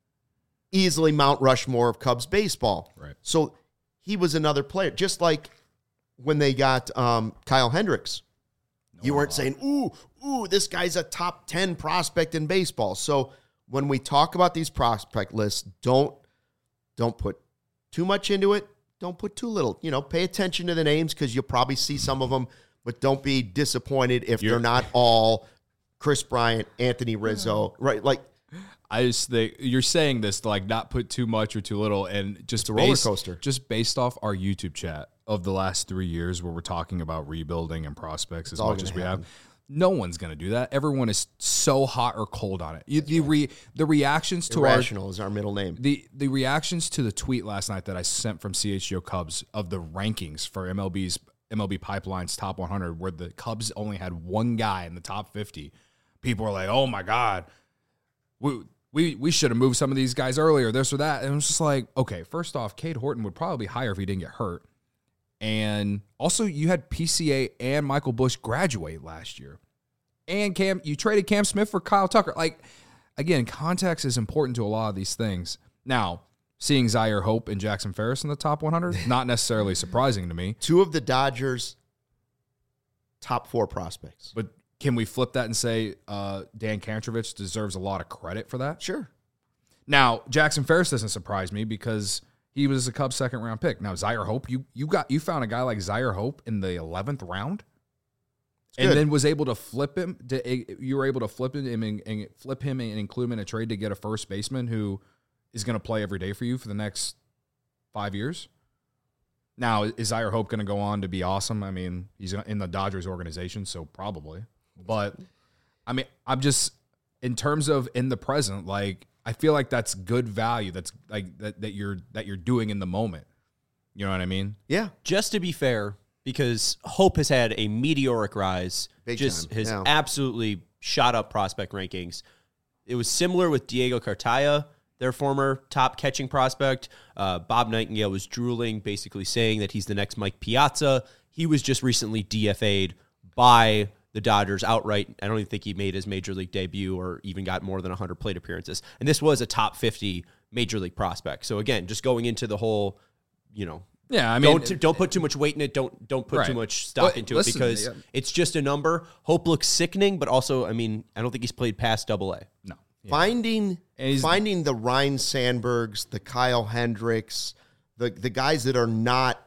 easily Mount Rushmore of Cubs baseball. Right. So he was another player. Just like when they got um, Kyle Hendricks. No you weren't saying, ooh, ooh, this guy's a top ten prospect in baseball. So when we talk about these prospect lists, don't don't put too much into it. Don't put too little. You know, pay attention to the names because you'll probably see some of them, but don't be disappointed if You're, they're not all Chris Bryant, Anthony Rizzo, right? Like, I just think you're saying this to like not put too much or too little, and just it's a roller based, coaster. Just based off our YouTube chat of the last three years, where we're talking about rebuilding and prospects it's as much as we happen. have. No one's going to do that. Everyone is so hot or cold on it. You, the re, the reactions to Irrational our, is our middle name. The the reactions to the tweet last night that I sent from C H G O Cubs of the rankings for M L B's M L B Pipeline's top one hundred, where the Cubs only had one guy in the top fifty. People were like, "Oh my God, we we we should have moved some of these guys earlier, this or that." And it was just like, okay, first off, Cade Horton would probably be higher if he didn't get hurt. And also, you had P C A and Michael Busch graduate last year. And Cam, you traded Cam Smith for Kyle Tucker. Like, again, context is important to a lot of these things. Now, seeing Zaire Hope and Jackson Ferris in the top one hundred, not necessarily surprising to me. Two of the Dodgers' top four prospects. But can we flip that and say uh, Dan Kantrovich deserves a lot of credit for that? Sure. Now, Jackson Ferris doesn't surprise me because he was a Cubs second round pick. Now, Zaire Hope, you you got you found a guy like Zaire Hope in the eleventh round, and good. then was able to flip him. To, you were able to flip him and, and flip him and include him in a trade to get a first baseman who is going to play every day for you for the next five years. Now, is Zaire Hope going to go on to be awesome? I mean, he's in the Dodgers organization, so probably. But I mean, I'm just in terms of in the present, like. I feel like that's good value. That's like that, that you're that you're doing in the moment. You know what I mean? Yeah. Just to be fair, because Hope has had a meteoric rise, Big just time. has Yeah. absolutely shot up prospect rankings. it was similar with Diego Cartaya, their former top catching prospect. Uh, Bob Nightingale was drooling, basically saying that he's the next Mike Piazza. He was just recently D F A'd by the Dodgers outright. I don't even think he made his major league debut or even got more than one hundred plate appearances. And this was a top fifty major league prospect. So again, just going into the whole, you know, Yeah, I mean, don't don't put too much weight in it. Don't don't put Right. too much stock Well, into listen, it because yeah. it's just a number. Hope looks sickening, but also, I mean, I don't think he's played past Double A. no. Yeah. Finding And he's- finding the Ryan Sandbergs, the Kyle Hendricks, the the guys that are not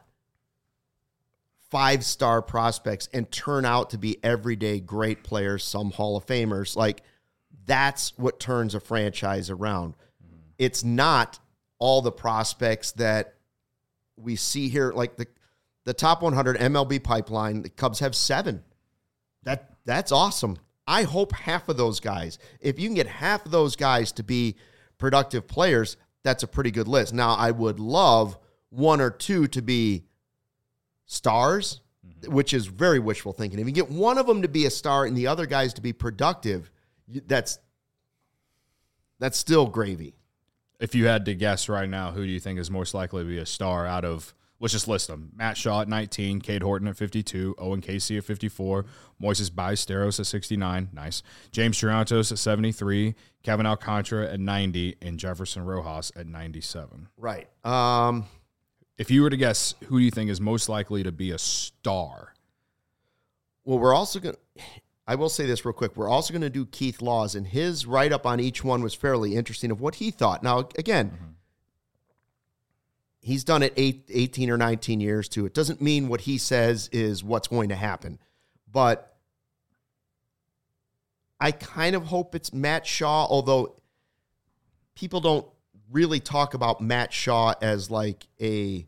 five star prospects and turn out to be everyday great players, some Hall of Famers. Like that's what turns a franchise around. Mm-hmm. It's not all the prospects that we see here, like the the top one hundred M L B pipeline. The Cubs have seven. That that's awesome. I hope half of those guys, if you can get half of those guys to be productive players, that's a pretty good list. Now, I would love one or two to be stars, mm-hmm. which is very wishful thinking. If you get one of them to be a star and the other guys to be productive, that's that's still gravy. If you had to guess right now, who do you think is most likely to be a star out of, let's just list them. Matt Shaw at nineteen, Cade Horton at fifty-two, Owen Casey at fifty-four, Moises Ballesteros at sixty-nine, nice. James Triantos at seventy-three, Kevin Alcantara at ninety, and Jefferson Rojas at ninety-seven. Right. Um, if you were to guess, who do you think is most likely to be a star? Well, we're also going to, I will say this real quick. We're also going to do Keith Laws, and his write-up on each one was fairly interesting of what he thought. Now, again, mm-hmm. he's done it eight, eighteen or nineteen years, too. It doesn't mean what he says is what's going to happen. But I kind of hope it's Matt Shaw, although people don't really talk about Matt Shaw as like a,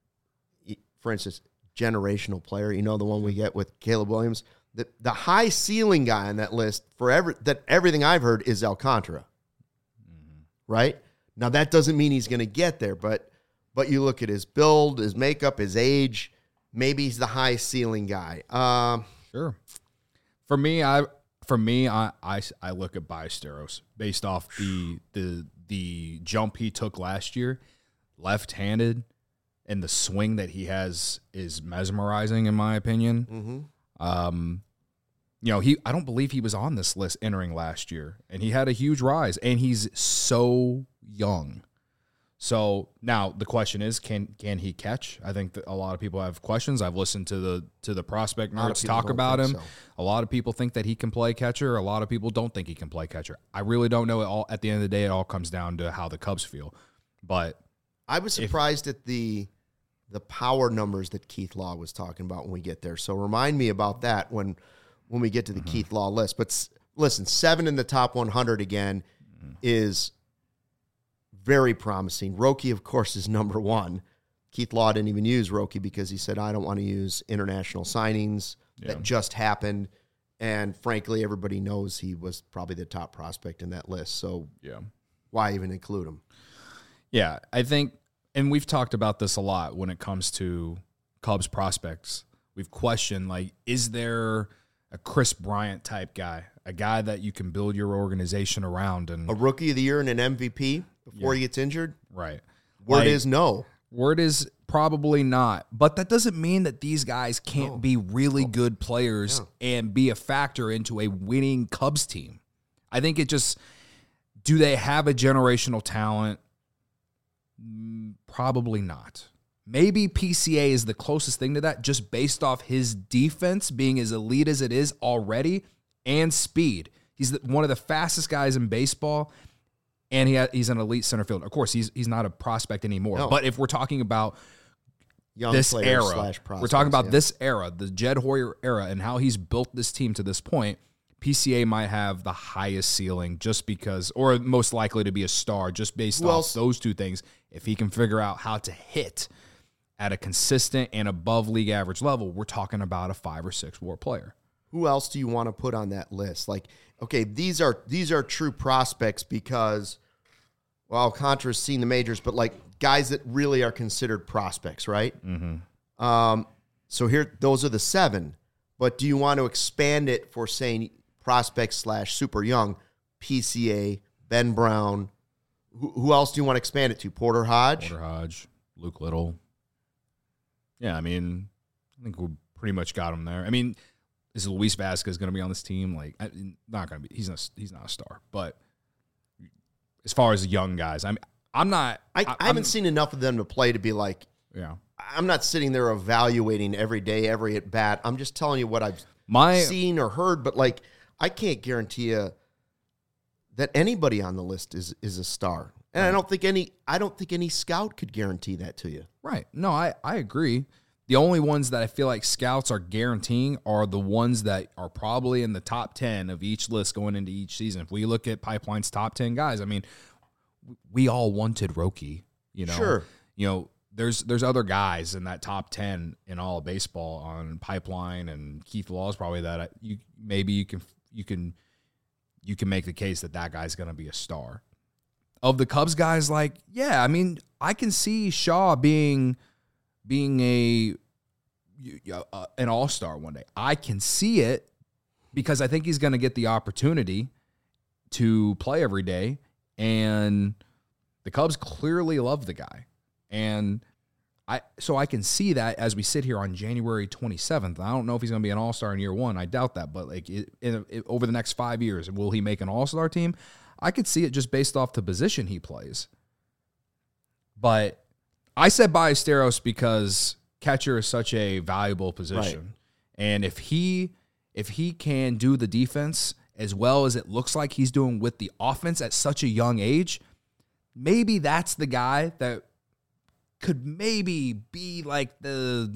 for instance, generational player. You know, the one we get with Caleb Williams. The, the high ceiling guy on that list for every, that everything I've heard is Alcantara. Mm-hmm. Right? Now, that doesn't mean he's going to get there, but but you look at his build, his makeup, his age, maybe he's the high ceiling guy. Um, sure. For me, I for me, I, I, I look at Ballesteros based off the the the jump he took last year, left-handed, and the swing that he has is mesmerizing in my opinion. Mm-hmm. Um, you know, he I don't believe he was on this list entering last year, and he had a huge rise, and he's so young. So now the question is, can can he catch? I think that a lot of people have questions. I've listened to the to the prospect nerds talk about him. So. A lot of people think that he can play catcher. A lot of people don't think he can play catcher. I really don't know. It all at the end of the day, it all comes down to how the Cubs feel. But I was surprised if, at the the power numbers that Keith Law was talking about when we get there. So remind me about that when when we get to the mm-hmm. Keith Law list. But s- listen, seven in the top one hundred again mm-hmm. is very promising. Roki, of course, is number one. Keith Law didn't even use Roki because he said, I don't want to use international signings yeah. that just happened. And frankly, everybody knows he was probably the top prospect in that list. So yeah, why even include him? Yeah, I think, and we've talked about this a lot when it comes to Cubs prospects. We've questioned, like, is there a Chris Bryant type guy, a guy that you can build your organization around? And a rookie of the year and an M V P before yeah. he gets injured? Right. Word like, is no. Word is probably not. But that doesn't mean that these guys can't no. be really oh. good players yeah. and be a factor into a winning Cubs team. I think it just, do they have a generational talent? Probably not. Maybe P C A is the closest thing to that, just based off his defense being as elite as it is already and speed. He's the, one of the fastest guys in baseball, and he ha, he's an elite center fielder. Of course, he's he's not a prospect anymore. No. But if we're talking about young this era, we're talking about yeah. this era, the Jed Hoyer era, and how he's built this team to this point, P C A might have the highest ceiling just because, or most likely to be a star just based Who off else? those two things. If he can figure out how to hit at a consistent and above league average level, we're talking about a five or six WAR player. Who else do you want to put on that list? Like, okay, these are these are true prospects because, well, Alcantara's seen the majors, but like guys that really are considered prospects, right? Mm-hmm. Um, so here, those are the seven. But do you want to expand it for saying prospects slash super young? P C A, Ben Brown. Who, who else do you want to expand it to? Porter Hodge? Porter Hodge, Luke Little. Yeah, I mean, I think we pretty much got him there. I mean, is Luis Vasquez going to be on this team? Like, I, not going to be. He's not. He's not a star. But as far as young guys, I'm. I'm not. I, I, I haven't I'm, seen enough of them to play to be like. Yeah. I'm not sitting there evaluating every day, every at bat. I'm just telling you what I've My seen or heard. But like, I can't guarantee you that anybody on the list is is a star. And I don't think any I don't think any scout could guarantee that to you. Right. No, I, I agree. The only ones that I feel like scouts are guaranteeing are the ones that are probably in the top ten of each list going into each season. If we look at Pipeline's top ten guys, I mean, we all wanted Roki, you know. Sure. You know, there's there's other guys in that top ten in all of baseball on Pipeline, and Keith Law is probably that I, you maybe you can you can you can make the case that that guy's going to be a star. Of the Cubs guys, like, yeah, I mean, I can see Shaw being being a, a an all-star one day. I can see it because I think he's going to get the opportunity to play every day, and the Cubs clearly love the guy. And I so I can see that as we sit here on January twenty-seventh. I don't know if he's going to be an all-star in year one. I doubt that, but like it, in, it, over the next five years, will he make an all-star team? I could see it just based off the position he plays. But I said Ballesteros because catcher is such a valuable position. Right. And if he if he can do the defense as well as it looks like he's doing with the offense at such a young age, maybe that's the guy that could maybe be like the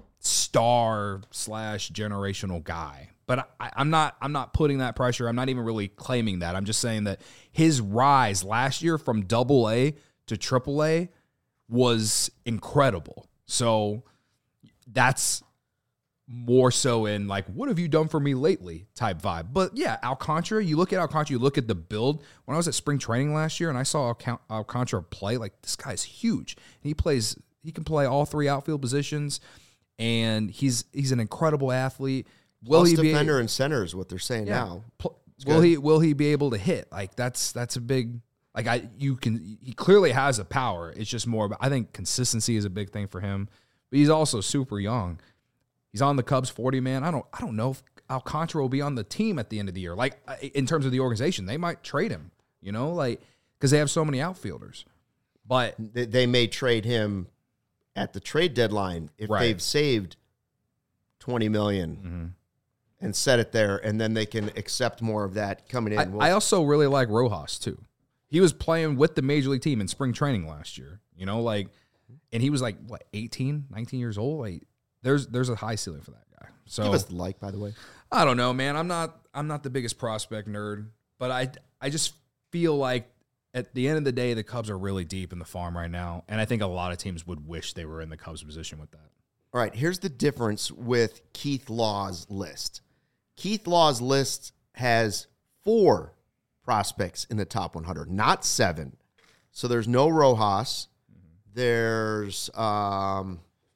star slash generational guy. But I, I'm not I'm not putting that pressure. I'm not even really claiming that. I'm just saying that his rise last year from double A to triple A was incredible. So that's more so in like, what have you done for me lately type vibe. But yeah, Alcantara, you look at Alcantara, you look at the build. When I was at spring training last year and I saw Alcantara play, like this guy's huge. And he plays, he can play all three outfield positions, and he's he's an incredible athlete. Will Plus he defender be, and center is what they're saying yeah, now. Pl- will he will he be able to hit? Like that's that's a big like I you can he clearly has a power. It's just more about, I think consistency is a big thing for him. But he's also super young. He's on the Cubs forty man. I don't I don't know if Alcantara will be on the team at the end of the year. Like in terms of the organization, they might trade him, you know, like because they have so many outfielders. But they, they may trade him at the trade deadline if right. they've saved twenty million dollars. Mm-hmm. And set it there, and then they can accept more of that coming in. I, we'll, I also really like Rojas, too. He was playing with the Major League team in spring training last year, you know, like, and he was like, what, eighteen, nineteen years old? Like, there's there's a high ceiling for that guy. So give us the like, by the way. I don't know, man. I'm not I'm not the biggest prospect nerd, but I, I just feel like at the end of the day, the Cubs are really deep in the farm right now, and I think a lot of teams would wish they were in the Cubs position with that. All right, here's the difference with Keith Law's list. Keith Law's list has four prospects in the top one hundred, not seven. So there's no Rojas. There's, um,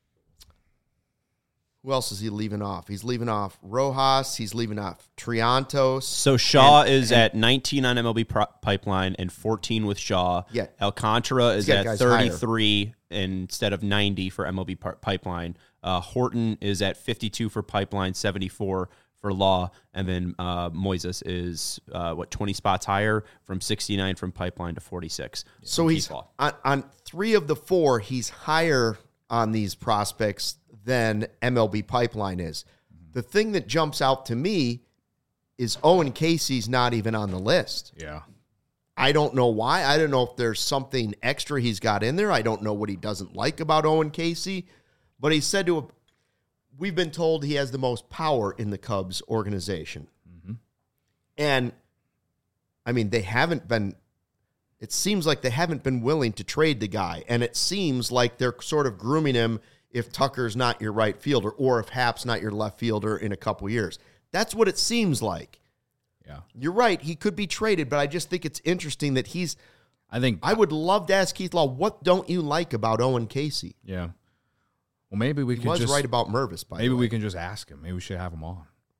who else is he leaving off? He's leaving off Rojas. He's leaving off Triantos. So Shaw and, is and, at nineteen on M L B pro- Pipeline and fourteen with Shaw. Yeah. Alcantara is Yeah, at thirty-three higher. Instead of ninety for M L B par- Pipeline. Uh, Horton is at fifty-two for Pipeline, seventy-four for Law, and then uh, Moises is uh, what twenty spots higher from sixty-nine from Pipeline to forty-six. So he's on, on three of the four. He's higher on these prospects than M L B Pipeline is. Mm-hmm. The thing that jumps out to me is Owen Casey's not even on the list. Yeah, I don't know why. I don't know if there's something extra he's got in there. I don't know what he doesn't like about Owen Casey, but he said to a we've been told he has the most power in the Cubs organization. Mm-hmm. And, I mean, they haven't been, it seems like they haven't been willing to trade the guy. And it seems like they're sort of grooming him if Tucker's not your right fielder or if Happ's not your left fielder in a couple years. That's what it seems like. Yeah. You're right. He could be traded, but I just think it's interesting that he's, I think, I would love to ask Keith Law, what don't you like about Owen Casey? Yeah. Well, maybe we he can was just right about Mervis. By maybe the way. we can just ask him. Maybe we should have him on.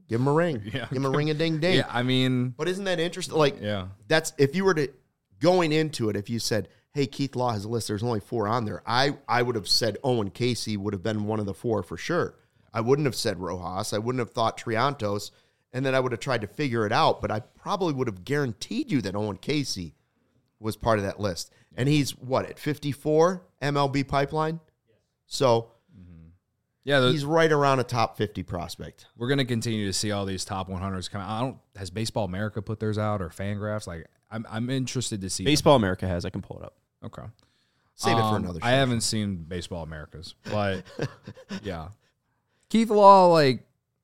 Give him a ring. Yeah. Give him a ring a ding ding. Yeah, I mean, But isn't that interesting? Like, yeah. that's if you were to going into it, if you said, hey, Keith Law has a list, there's only four on there, I, I would have said Owen Casey would have been one of the four for sure. I wouldn't have said Rojas. I wouldn't have thought Triantos, and then I would have tried to figure it out, but I probably would have guaranteed you that Owen Casey was part of that list. And he's, what, at fifty-four M L B pipeline? So Yeah, the, he's right around a top fifty prospect. we're going to continue to see all these top one hundreds come out. I don't, has Baseball America put theirs out or Fangraphs? Like, I'm I'm interested to see. Baseball America has. I can pull it up. Okay. Save it for Um, another show. I haven't seen Baseball Americas, but yeah. Keith Law, like,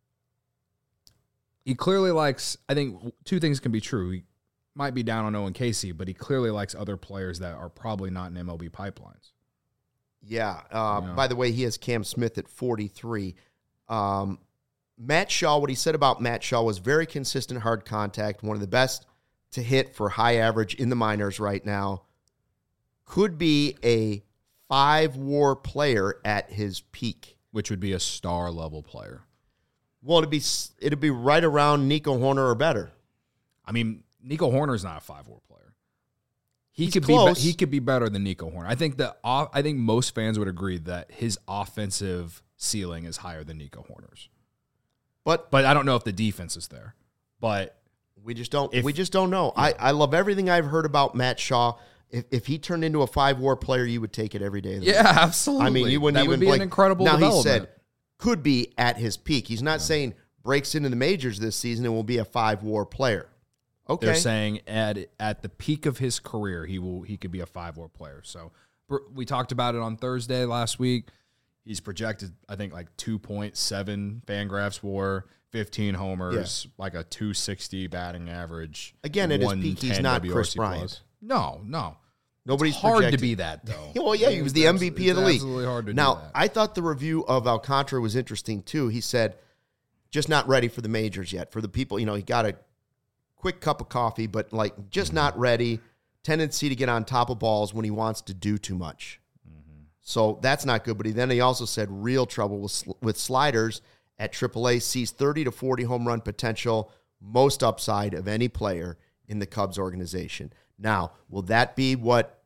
he clearly likes, I think two things can be true. He might be down on Owen Casey, but he clearly likes other players that are probably not in M L B pipelines. Yeah. Uh, Yeah. By the way, he has Cam Smith at forty-three. Um, Matt Shaw, what he said about Matt Shaw was very consistent hard contact, one of the best to hit for high average in the minors right now. Could be a five-war player at his peak. Which would be a star level player. Well, it'd be it'd be right around Nico Horner or better. I mean, Nico Horner's not a five-war player. He He's could close. be he could be better than Nico Horner. I think that I think most fans would agree that his offensive ceiling is higher than Nico Horner's. But But I don't know if the defense is there. But we just don't If- we just don't know. I, I love everything I've heard about Matt Shaw. If if he turned into a five-war player, you would take it every day of the week. yeah, absolutely. I mean, you wouldn't that even would be like, an incredible Now development. he said could be at his peak. He's not saying breaks into the majors this season and will be a five-war player. Okay, They're saying at at the peak of his career, he will he could be a five-war player. So br- we talked about it on Thursday last week. He's projected, I think, like two point seven Fangraphs WAR, fifteen homers, like a two sixty batting average. Again, at his peak, he's one ten not W R Chris C Bryant. plus. No, no. Nobody's It's hard projected. to be that, though. Well, yeah, he was the M V P of the It's league. absolutely hard to do now, that. I thought the review of Alcantara was interesting too. He said, just not ready for the majors yet. For the people, you know, he got a quick cup of coffee, but like just Mm-hmm. not ready. Tendency to get on top of balls when he wants to do too much. Mm-hmm. So that's not good. But he then he also said real trouble with sl- with sliders at triple A. Sees thirty to forty home run potential, most upside of any player in the Cubs organization. Now, will that be what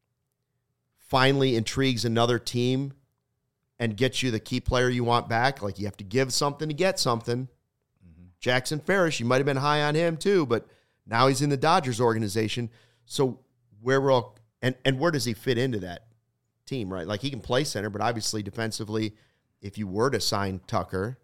finally intrigues another team and gets you the key player you want back? Like, you have to give something to get something. Mm-hmm. Jackson Ferris, you might have been high on him too, but now he's in the Dodgers organization. So where will and and where does he fit into that team, right? Like, he can play center, but obviously defensively, if you were to sign Tucker,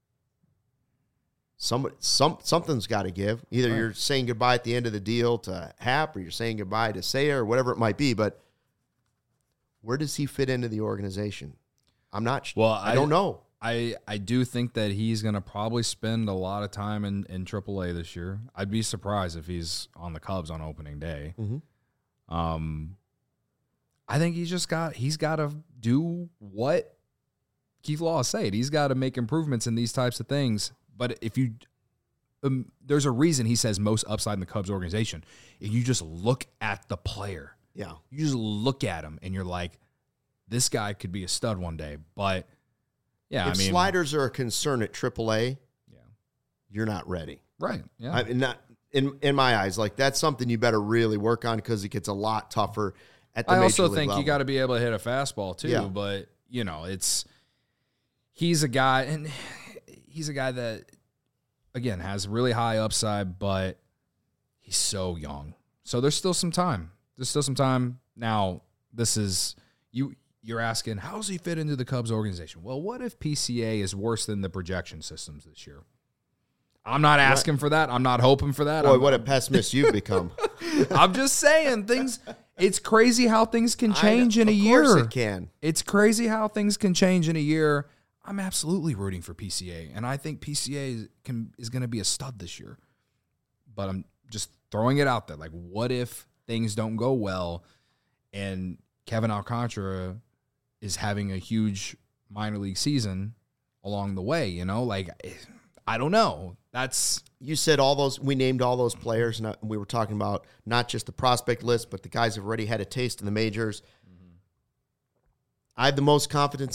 Some, some, something's got to give. Either Right. you're saying goodbye at the end of the deal to Happ, or you're saying goodbye to Sayer, or whatever it might be. But where does he fit into the organization? I'm not. sh- Well, I, I- don't know. I, I do think that he's going to probably spend a lot of time in, in triple A this year. I'd be surprised if he's on the Cubs on opening day. Mhm. Um, I think he's just got he's got to do what Keith Law said. He's got to make improvements in these types of things. But if you, um, there's a reason he says most upside in the Cubs organization. If you just look at the player, Yeah. you just look at him and you're like, this guy could be a stud one day. But yeah, if I mean, sliders are a concern at triple A, yeah, you're not ready. right, yeah, I mean, not in in my eyes. Like, that's something you better really work on, because it gets a lot tougher at the I major also league think level. you got to be able to hit a fastball too. Yeah. But you know, it's he's a guy, and he's a guy that again has really high upside, but he's so young. So there's still some time. There's still some time. Now, this is you. You're asking, how does he fit into the Cubs organization? Well, what if P C A is worse than the projection systems this year? I'm not asking for that. I'm not hoping for that. Boy, I'm, what a pessimist you've become. I'm just saying things. It's crazy how things can change I, in a of year. course it can. It's crazy how things can change in a year. I'm absolutely rooting for P C A, and I think P C A is, can is going to be a stud this year. But I'm just throwing it out there. Like, what if things don't go well, and Kevin Alcantara is having a huge minor league season along the way? You know, like, I don't know. That's You said all those, we named all those players, and uh, we were talking about not just the prospect list, but the guys have already had a taste in the majors. I have the most confidence in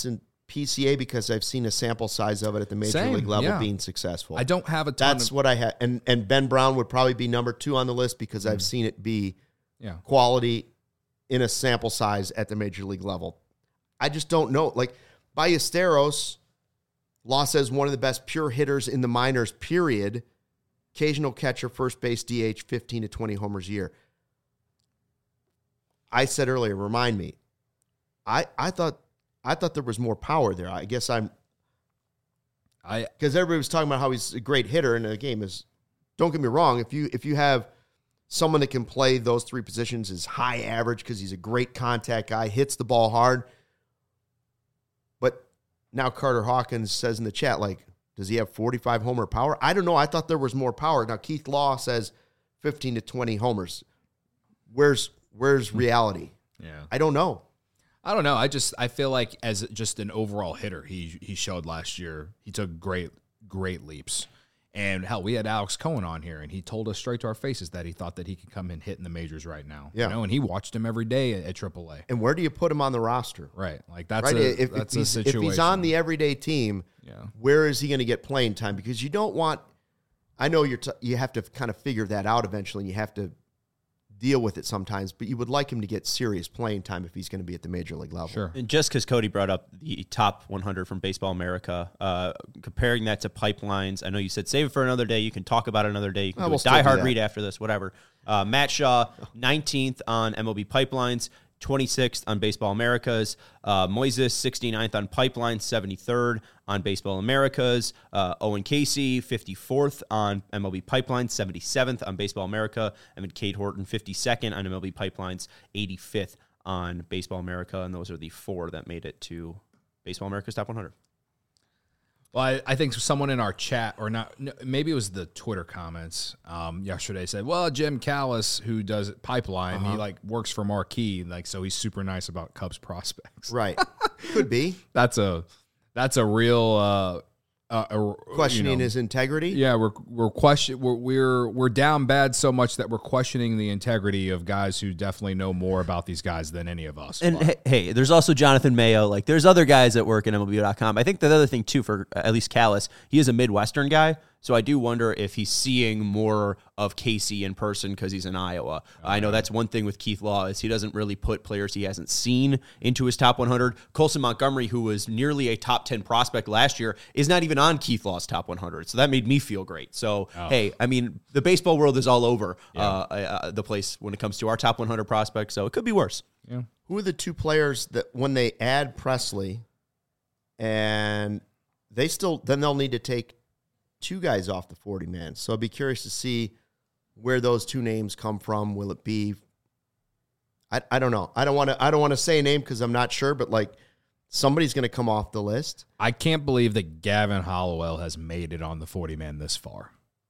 P C A because I've seen a sample size of it at the major Same, league level yeah. being successful. I don't have a ton That's of, what I had. And, and Ben Brown would probably be number two on the list because I've seen it be yeah. quality in a sample size at the major league level. I just don't know. Like, Ballesteros, Law says one of the best pure hitters in the minors, period. Occasional catcher, first base, D H, fifteen to twenty homers a year. I said earlier, remind me, I, I thought I thought there was more power there. I guess I'm I because everybody was talking about how he's a great hitter, and the game is, don't get me wrong, if you if you have someone that can play those three positions is high average because he's a great contact guy, hits the ball hard. But now Carter Hawkins says in the chat, like, does he have forty-five homer power? I don't know. I thought there was more power. Now Keith Law says fifteen to twenty homers. Where's where's reality? yeah. I don't know. I don't know. I just I feel like as just an overall hitter, he he showed last year. He took great great leaps. And hell, we had Alex Cohen on here, and he told us straight to our faces that he thought that he could come and hit in the majors right now. Yeah. You know, and he watched him every day at, at triple A. And where do you put him on the roster? Right. Like that's Right? a if, that's if, a he's, situation. if he's on the everyday team, yeah. where is he going to get playing time? Because you don't want. I know you're. T- you have to kind of figure that out eventually. And you have to deal with it sometimes, but you would like him to get serious playing time if he's going to be at the major league level. Sure. And just because Cody brought up the top one hundred from Baseball America, uh, comparing that to pipelines, I know you said save it for another day. You can talk about it another day. You can Oh, do we'll a still do diehard that. read after this, whatever. Uh, Matt Shaw, nineteenth on M L B Pipelines, twenty-sixth on Baseball Americas. Uh, Moises, sixty-ninth on Pipelines, seventy-third on Baseball Americas. Uh, Owen Casey, fifty-fourth on M L B Pipelines, seventy-seventh on Baseball America. And then Cade Horton, fifty-second on M L B Pipelines, eighty-fifth on Baseball America. And those are the four that made it to Baseball America's Top one hundred. Well, I, I think someone in our chat, or not, no, maybe it was the Twitter comments um, yesterday said, well, Jim Callis, who does Pipeline, Uh-huh. he like works for Marquee, like so he's super nice about Cubs prospects. Right. Could be. That's a that's a real uh, uh, uh, Questioning you know, his integrity. Yeah, we're we're question we're, we're we're down bad so much that we're questioning the integrity of guys who definitely know more about these guys than any of us. And But- hey, hey, there's also Jonathan Mayo. Like, there's other guys that work at M L B dot com. I think the other thing, too, for at least Callis, he is a Midwestern guy. So I do wonder if he's seeing more of Casey in person because he's in Iowa. I know that's one thing with Keith Law is he doesn't really put players he hasn't seen into his top one hundred. Colson Montgomery, who was nearly a top ten prospect last year, is not even on Keith Law's top one hundred. So that made me feel great. So, Oh. hey, I mean, the baseball world is all over uh, uh, the place when it comes to our top one hundred prospects. So it could be worse. yeah. Who are the two players that when they add Presley and they still, then they'll need to take two guys off the forty man. So I'd be curious to see where those two names come from. Will it be, I, I don't know. I don't want to, I don't want to say a name because I'm not sure, but like somebody's going to come off the list. I can't believe that Gavin Hollowell has made it on the forty man this far.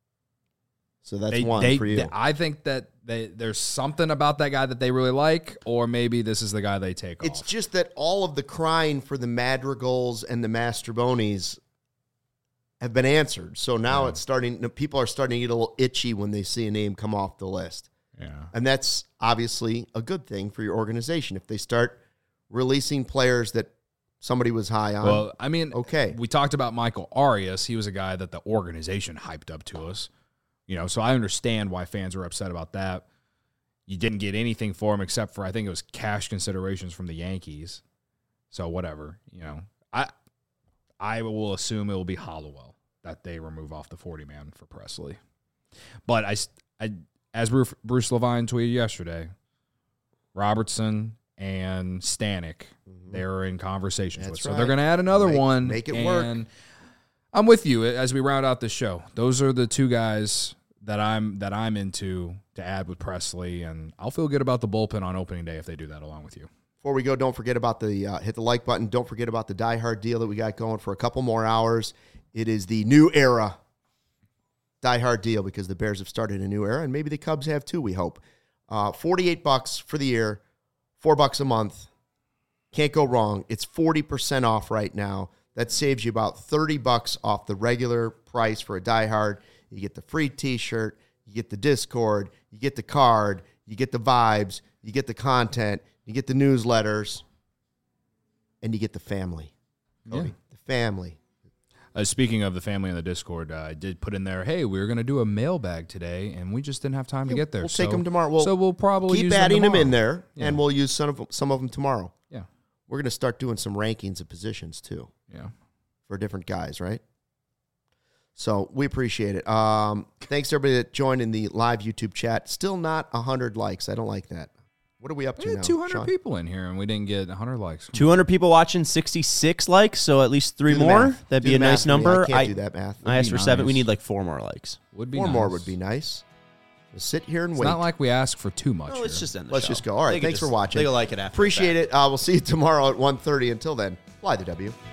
So that's They- one they- for you. they- I think that they, there's something about that guy that they really like, or maybe this is the guy they take It's off. just that all of the crying for the Madrigals and the Mastrobonis have been answered. So now Yeah. it's starting, people are starting to get a little itchy when they see a name come off the list. Yeah. And that's obviously a good thing for your organization. If they start releasing players that somebody was high on, Well, I mean, okay. we talked about Michael Arias. He was a guy that the organization hyped up to us. You know, so I understand why fans are upset about that. You didn't get anything for him except for, I think it was cash considerations from the Yankees. So whatever, you know. I I will assume it will be Hollowell that they remove off the forty man for Presley. But I, I as Bruce, Bruce Levine tweeted yesterday, Robertson and Stanek, they're in conversations That's with. So right. they're going to add another Make- one. make it work. and I'm with you as we round out the show. Those are the two guys that I'm that I'm into to add with Presley, and I'll feel good about the bullpen on opening day if they do that along with you. Before we go, don't forget about the uh, hit the like button. Don't forget about the Die Hard deal that we got going for a couple more hours. It is the new era Die Hard deal because the Bears have started a new era, and maybe the Cubs have too, we hope. Uh, forty-eight bucks for the year, four bucks a month. Can't go wrong. It's forty percent off right now. That saves you about thirty bucks off the regular price for a Die Hard. You get the free t-shirt, you get the Discord, you get the card, you get the vibes, you get the content, you get the newsletters, and you get the family. Cody. Yeah. The family. Uh, speaking of the family in the Discord, uh, I did put in there, hey, we were going to do a mailbag today, and we just didn't have time to get there. We'll so, take them tomorrow. We'll so we'll probably keep use adding them, them in tomorrow. there, Yeah. and we'll use some of them, some of them tomorrow. Yeah. We're going to start doing some rankings of positions, too, Yeah. for different guys, right? So we appreciate it. Um, thanks to everybody that joined in the live YouTube chat. Still not one hundred likes. I don't like that. What are we up to We had now, two hundred Sean? people in here, and we didn't get one hundred likes. two hundred people watching, sixty-six likes, so at least three Do the more. math. That'd Do be a the math nice for me. number. I can't do that math. I asked be for seven. We nice. need like four more likes. Would be Four nice. more would be nice. We'll sit here and It's wait. not like we ask for too much. No, let's here. just end the Let's show. just go. All right, They can thanks for just- watching. They'll like it after. the Appreciate fact. it. Uh, we'll see you tomorrow at one thirty. Until then, fly the W.